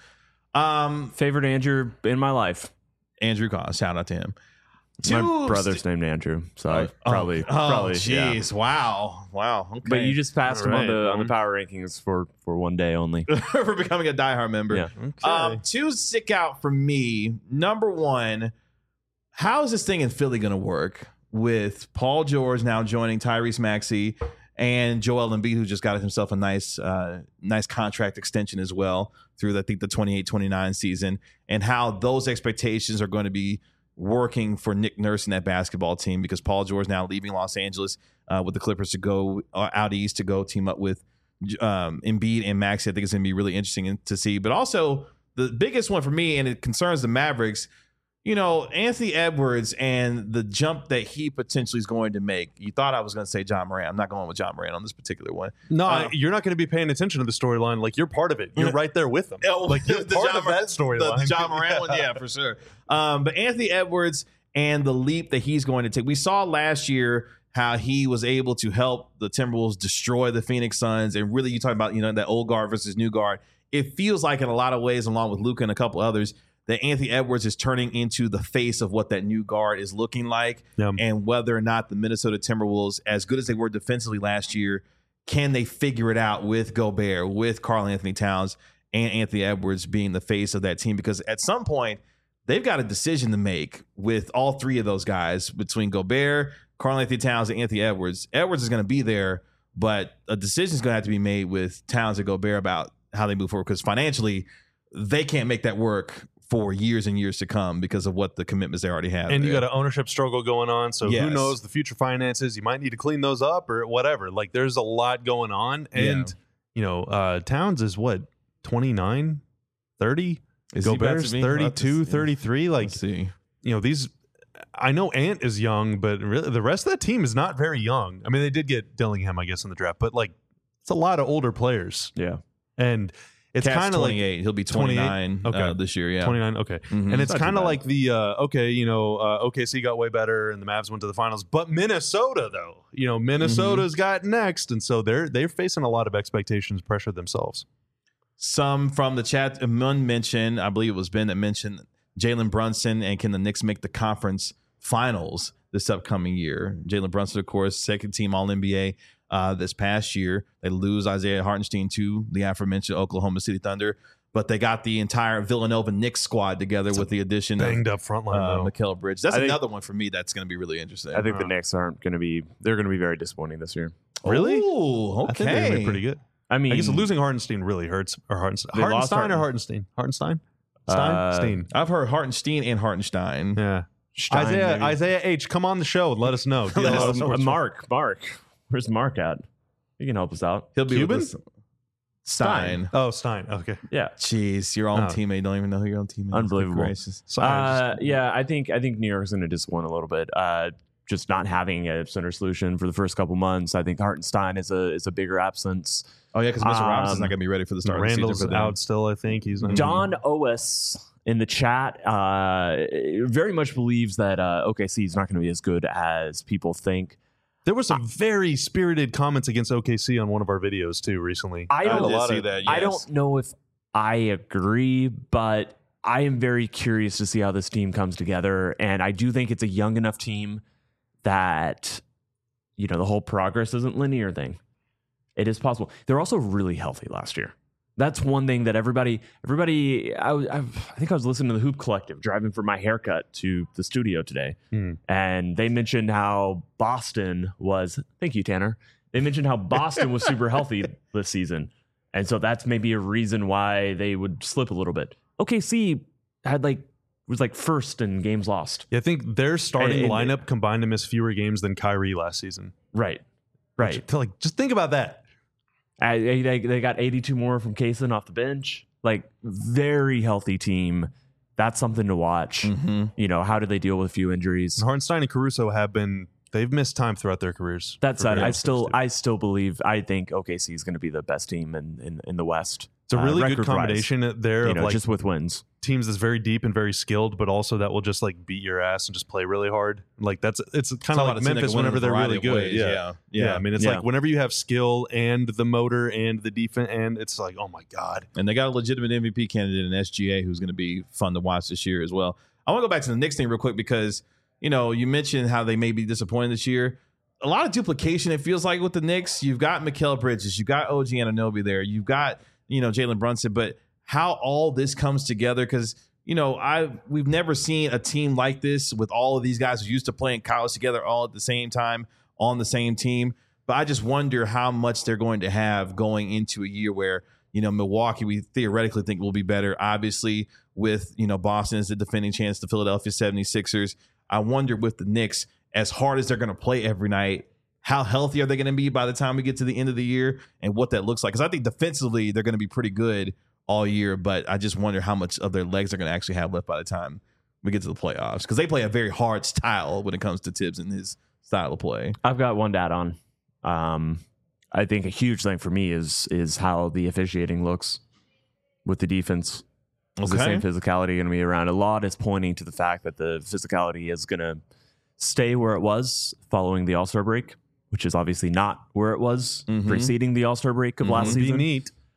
Um, Favorite Andrew in my life. Andrew Collins. Shout out to him. My Two brother's named Andrew, so I Oh, probably, oh, probably, jeez, wow, wow. Okay. But you just passed him on All the right, on the um, power rankings for for one day only. for becoming a diehard member. Yeah. Okay. Um, two stick out for me. Number one, how is this thing in Philly going to work with Paul George now joining Tyrese Maxey and Joel Embiid, who just got himself a nice, uh, nice contract extension as well through the, I think the twenty-eight twenty-nine season, and how those expectations are going to be working for Nick Nurse and that basketball team because Paul George now leaving Los Angeles uh, with the Clippers to go uh, out east to go team up with um, Embiid and Maxey. I think it's going to be really interesting to see. But also the biggest one for me, and it concerns the Mavericks, you know, Anthony Edwards and the jump that he potentially is going to make. You thought I was going to say John Morant. I'm not going with John Morant on this particular one. No, Uh, you're not going to be paying attention to the storyline. Like you're part of it. You're right there with them. Oh, Like you're the part John of Morant- that storyline. The John Morant one, yeah, for sure. Um, but Anthony Edwards and the leap that he's going to take. We saw last year how he was able to help the Timberwolves destroy the Phoenix Suns. And really, you talk about, you know, that old guard versus new guard. It feels like in a lot of ways, along with Luka and a couple others, that Anthony Edwards is turning into the face of what that new guard is looking like, Yeah. and whether or not the Minnesota Timberwolves, as good as they were defensively last year, can they figure it out with Gobert, with Karl Anthony Towns, and Anthony Edwards being the face of that team? Because at some point, they've got a decision to make with all three of those guys, between Gobert, Karl Anthony Towns, and Anthony Edwards. Edwards is going to be there, but a decision is going to have to be made with Towns and Gobert about how they move forward, because financially, they can't make that work for years and years to come because of what the commitments they already have. And you there. got an ownership struggle going on. So Yes. who knows the future finances? You might need to clean those up or whatever. Like there's a lot going on. And, Yeah. you know, uh, Towns is what, twenty-nine, thirty? Is he about Gobert's to be? thirty-two, Let's see. thirty-three. Like, Let's see. you know, these, I know Ant is young, but really the rest of that team is not very young. I mean, they did get Dillingham, I guess, in the draft, but like it's a lot of older players. Yeah. And it's Cat's kind of like twenty-eight. He'll be twenty-eight? twenty-nine Okay. uh, this year. Yeah. twenty-nine. Okay. Mhm. And it's Not too kind of bad. like the, uh, okay, you know, uh, O K C got way better and the Mavs went to the finals, but Minnesota, though, you know, Minnesota's got next. And so they're, they're facing a lot of expectations, pressure themselves. Some from the chat, Mun mentioned, I believe it was Ben that mentioned Jalen Brunson, and can the Knicks make the conference finals this upcoming year? Jalen Brunson, of course, second team All N B A uh, this past year. They lose Isaiah Hartenstein to the aforementioned Oklahoma City Thunder, but they got the entire Villanova Knicks squad together with the addition Banged of up front line, uh, though. Mikal Bridges. That's I think- another one for me that's going to be really interesting. I think the Uh. Knicks aren't going to be. They're going to be very disappointing this year. Really? Ooh, okay. I think they're going to be pretty good. I mean, I guess losing Hartenstein really hurts. Or Hartenstein, They lost Hartenstein or Harten- Hartenstein? Hartenstein? Stein? Uh, Steen. I've heard Hartenstein and Hartenstein. Yeah. Stein, Isaiah maybe. Isaiah H, come on the show and let us know. Let us Uh, know what's Mark, Mark, where's Mark at? He can help us out. He'll be Cuban? with us. Stein. Oh, Stein. Okay. Yeah. Jeez, your own Oh. teammate don't even know who your own teammate is. Unbelievable. Good gracious. Sorry, Uh, just- yeah, I think I think New York's going to disappoint a little bit. Uh, just not having a center solution for the first couple months. I think Hartenstein is a is a bigger absence. Oh yeah, because Mister Um, Robinson's not going to be ready for the start Randall's of the season for them. out still, I think. He's not. Don Ois in the chat uh, very much believes that uh, O K C is not going to be as good as people think. There were some very spirited comments against O K C on one of our videos too recently. I I don't, did a lot see of- that. I yes. don't know if I agree, but I am very curious to see how this team comes together. And I do think it's a young enough team that, you know, the whole progress isn't linear thing. It is possible. They're also really healthy last year. That's one thing that everybody, everybody, I, was- I, I think I was listening to the Hoop Collective driving for my haircut to the studio today. Hmm. And they mentioned how Boston was, thank you, Tanner. They mentioned how Boston was super healthy this season. And so that's maybe a reason why they would slip a little bit. O K C had like, was like first in games lost. Yeah, I think their starting And- and- lineup combined to miss fewer games than Kyrie last season. Right. Right. To, like, just think about that. Uh, They, they they got eighty-two more from Kaysen off the bench. Like, very healthy team. That's something to watch. Mm-hmm. You know, how do they deal with a few injuries? And Hartenstein and Caruso have been, they've missed time throughout their careers. That for said, I various still things, too. I still believe I think O K C is going to be the best team in in, in the West. It's a uh, really good record-wise. combination there You of know, like just with wins. teams that's very deep and very skilled, but also that will just like beat your ass and just play really hard. Like that's it's kind of like Memphis whenever they're really good. Yeah. Yeah. yeah, Yeah, I mean, it's Yeah. like whenever you have skill and the motor and the defense, and it's like, oh my god, And they got a legitimate M V P candidate in S G A who's going to be fun to watch this year as well. I want to go back to the Knicks thing real quick because, you know, you mentioned how they may be disappointed this year. A lot of duplication, it feels like, with the Knicks. You've got Mikal Bridges. You've got O G Anunoby there. You've got, you know, Jalen Brunson. But how all this comes together, because, you know, I we've never seen a team like this with all of these guys who used to play in college together all at the same time on the same team. But I just wonder how much they're going to have going into a year where, you know, Milwaukee, we theoretically think will be better. Obviously, with, you know, Boston as the defending champs, the Philadelphia seventy-sixers. I wonder with the Knicks, as hard as they're going to play every night, how healthy are they going to be by the time we get to the end of the year and what that looks like? Because I think defensively, they're going to be pretty good all year, but I just wonder how much of their legs they're going to actually have left by the time we get to the playoffs, because they play a very hard style when it comes to Tibbs and his style of play. I've got one dad on. Um, I think a huge thing for me is is how the officiating looks with the defense. Is the same physicality going to be around? A lot is pointing to the fact that the physicality is going to stay where it was following the All-Star break, which is obviously not where it was Mhm. preceding the All-Star break of Mhm. last be season. neat.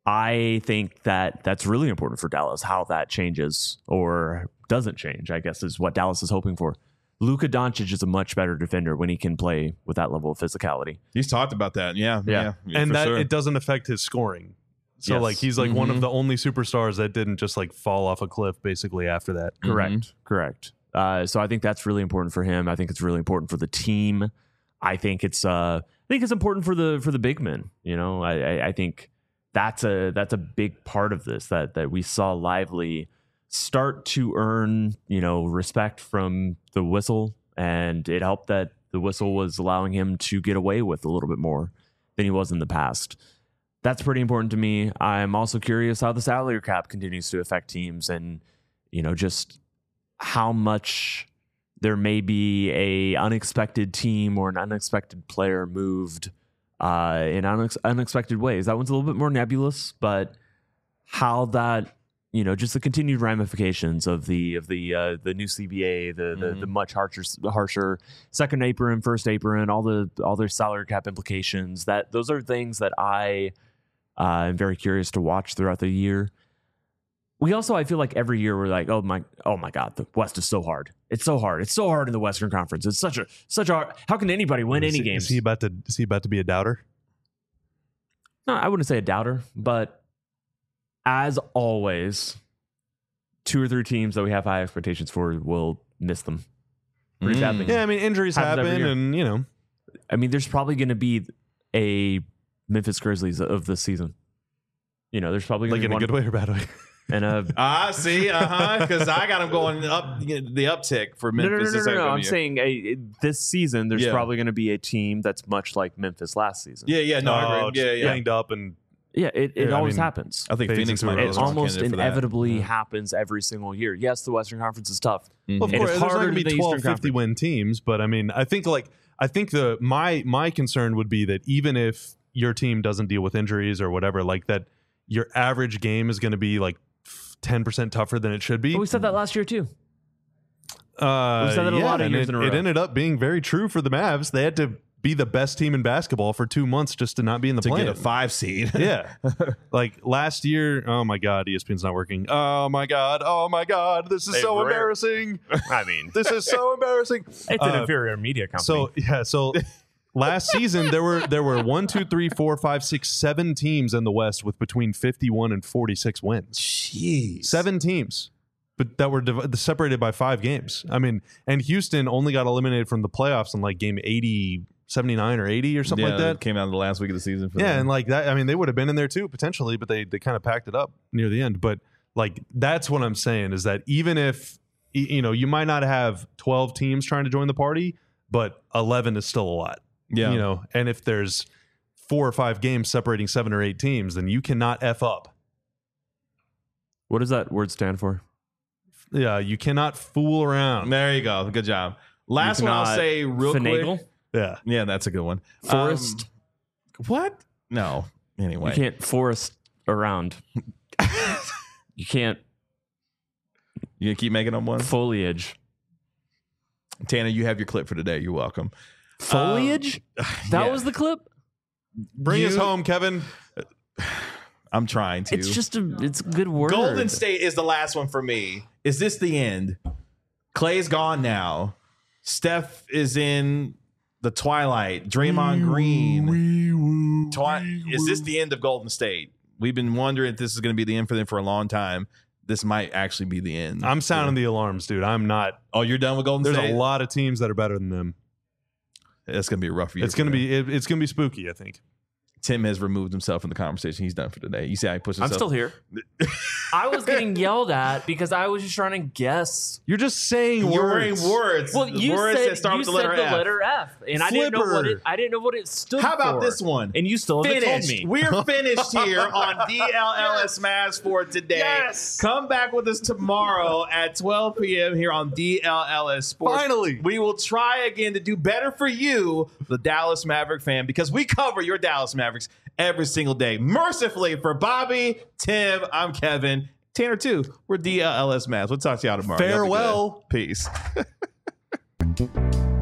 I think that that's really important for Dallas, how that changes or doesn't change, I guess, is what Dallas is hoping for. Luka Doncic is a much better defender when he can play with that level of physicality. He's talked about that. Yeah. Yeah. yeah and for that sure. it doesn't affect his scoring. So Yes. like he's like one Mhm. of the only superstars that didn't just like fall off a cliff basically after that. Correct. Correct. Uh, so I think that's really important for him. I think it's really important for the team. I think it's uh, I think it's important for the for the big men. You know, I, I, I think that's a that's a big part of this that that we saw Lively start to earn, you know, respect from the whistle, and it helped that the whistle was allowing him to get away with a little bit more than he was in the past. That's pretty important to me. I'm also curious how the salary cap continues to affect teams, and you know, just how much there may be a unexpected team or an unexpected player moved uh, in unex- unexpected ways. That one's a little bit more nebulous, but how that, you know, just the continued ramifications of the of the uh, the new C B A, the the, Mhm. the much harsher harsher second apron, first apron, all the all their salary cap implications. That those are things that I uh, am very curious to watch throughout the year. We also, I feel like every year we're like, oh my, oh my God, the West is so hard. It's so hard. It's so hard in the Western Conference. It's such a such a. How can anybody win Is any he, games? Is he about to is he about to be a doubter? No, I wouldn't say a doubter, but as always, two or three teams that we have high expectations for will miss them pretty Mm. badly. Yeah, I mean injuries Happens every happen, year. and you know I mean, there's probably going to be a Memphis Grizzlies of this season. You know, there's probably going like to in be a one good way or bad way. and a. Ah, see, uh huh. Because I got him going up the uptick for No, Memphis. no, no, no, this no, no. I'm upcoming year. saying a, this season, there's Yeah. probably going to be a team that's much like Memphis last season. Yeah, yeah, no, I Oh, agree. Yeah, just yeah. banged up and Yeah, it, it Yeah, I always mean, happens. I think Fades Phoenix into might a be It a strong almost candidate for that. inevitably Yeah. happens every single year. Yes, the Western Conference is tough. Mhm. Well, of It course, is there's not harder going to than be the twelve, Eastern fifty Conference. win teams, but I mean, I think like I think the my my concern would be that even if your team doesn't deal with injuries or whatever, like that, your average game is going to be like ten percent tougher than it should be. But we said that last year too. Uh, we said that a yeah, lot of and years it, in a row. it ended up being very true for the Mavs. They had to be the best team in basketball for two months just to not be in the To play. get a five seed. Yeah. Like last year, oh my God, E S P N's not working. Oh my God, oh my God, this is Hey, so rare. embarrassing. I mean, This is so embarrassing. it's an Uh, inferior media company. So yeah, so last season there were there were one, two, three, four, five, six, seven teams in the West with between fifty-one and forty-six wins. Jeez. Seven teams, but that were div- separated by five games. I mean, and Houston only got eliminated from the playoffs in like game eighty, seventy-nine or eighty or something yeah, like that. came out in the last week of the season. For Yeah, them. and like that, I mean, they would have been in there too potentially, but they they kind of packed it up near the end. But like that's what I'm saying is that even if y- you know you might not have twelve teams trying to join the party, but eleven is still a lot. yeah, You know, and if there's four or five games separating seven or eight teams, then you cannot F up. what does that word stand for? Yeah, you cannot fool around. there you go. Good job. Last You one I'll cannot say real Finagle? quick. Yeah. Yeah, that's a good one. Forest. Um, what? No. Anyway, You can't forest around. You can't You gonna keep making them one. foliage. Tanner, you have your clip for today. You're welcome. Foliage? Um, that yeah. was the clip? Bring You- us home, Kevin. I'm trying to. It's just a it's a good word. Golden State is the last one for me. Is this the end? Clay's gone now. Steph is in the twilight. Draymond Green. Twi- is this the end of Golden State? We've been wondering if this is going to be the end for them for a long time. This might actually be the end. I'm sounding the alarms, dude. I'm not. Oh, you're done with Golden There's State? a lot of teams that are better than them. It's going to be a rough year. It's for gonna them. be. It, it's gonna be spooky. I think. Tim has removed himself from the conversation. He's done for today. You see how he pushes I'm himself? still here. I was getting yelled at because I was just trying to guess. You're just saying You're words. wearing words. Well, you words said that start you with the said letter the F. letter F, and I didn't know what Flipper. it. I didn't know what it stood for. How about this one? And you still haven't told Finished. me. We're finished here on D L L S Mavs for today. Yes. Come back with us tomorrow at twelve p.m. here on D L L S Sports. Finally. We will try again to do better for you, the Dallas Maverick fan, because we cover your Dallas Mavericks every single day. Mercifully for Bobby, Tim, I'm Kevin. Tanner, too. We're D L L S Mavs. We'll talk to y'all tomorrow. Y'all be good. Farewell. Peace.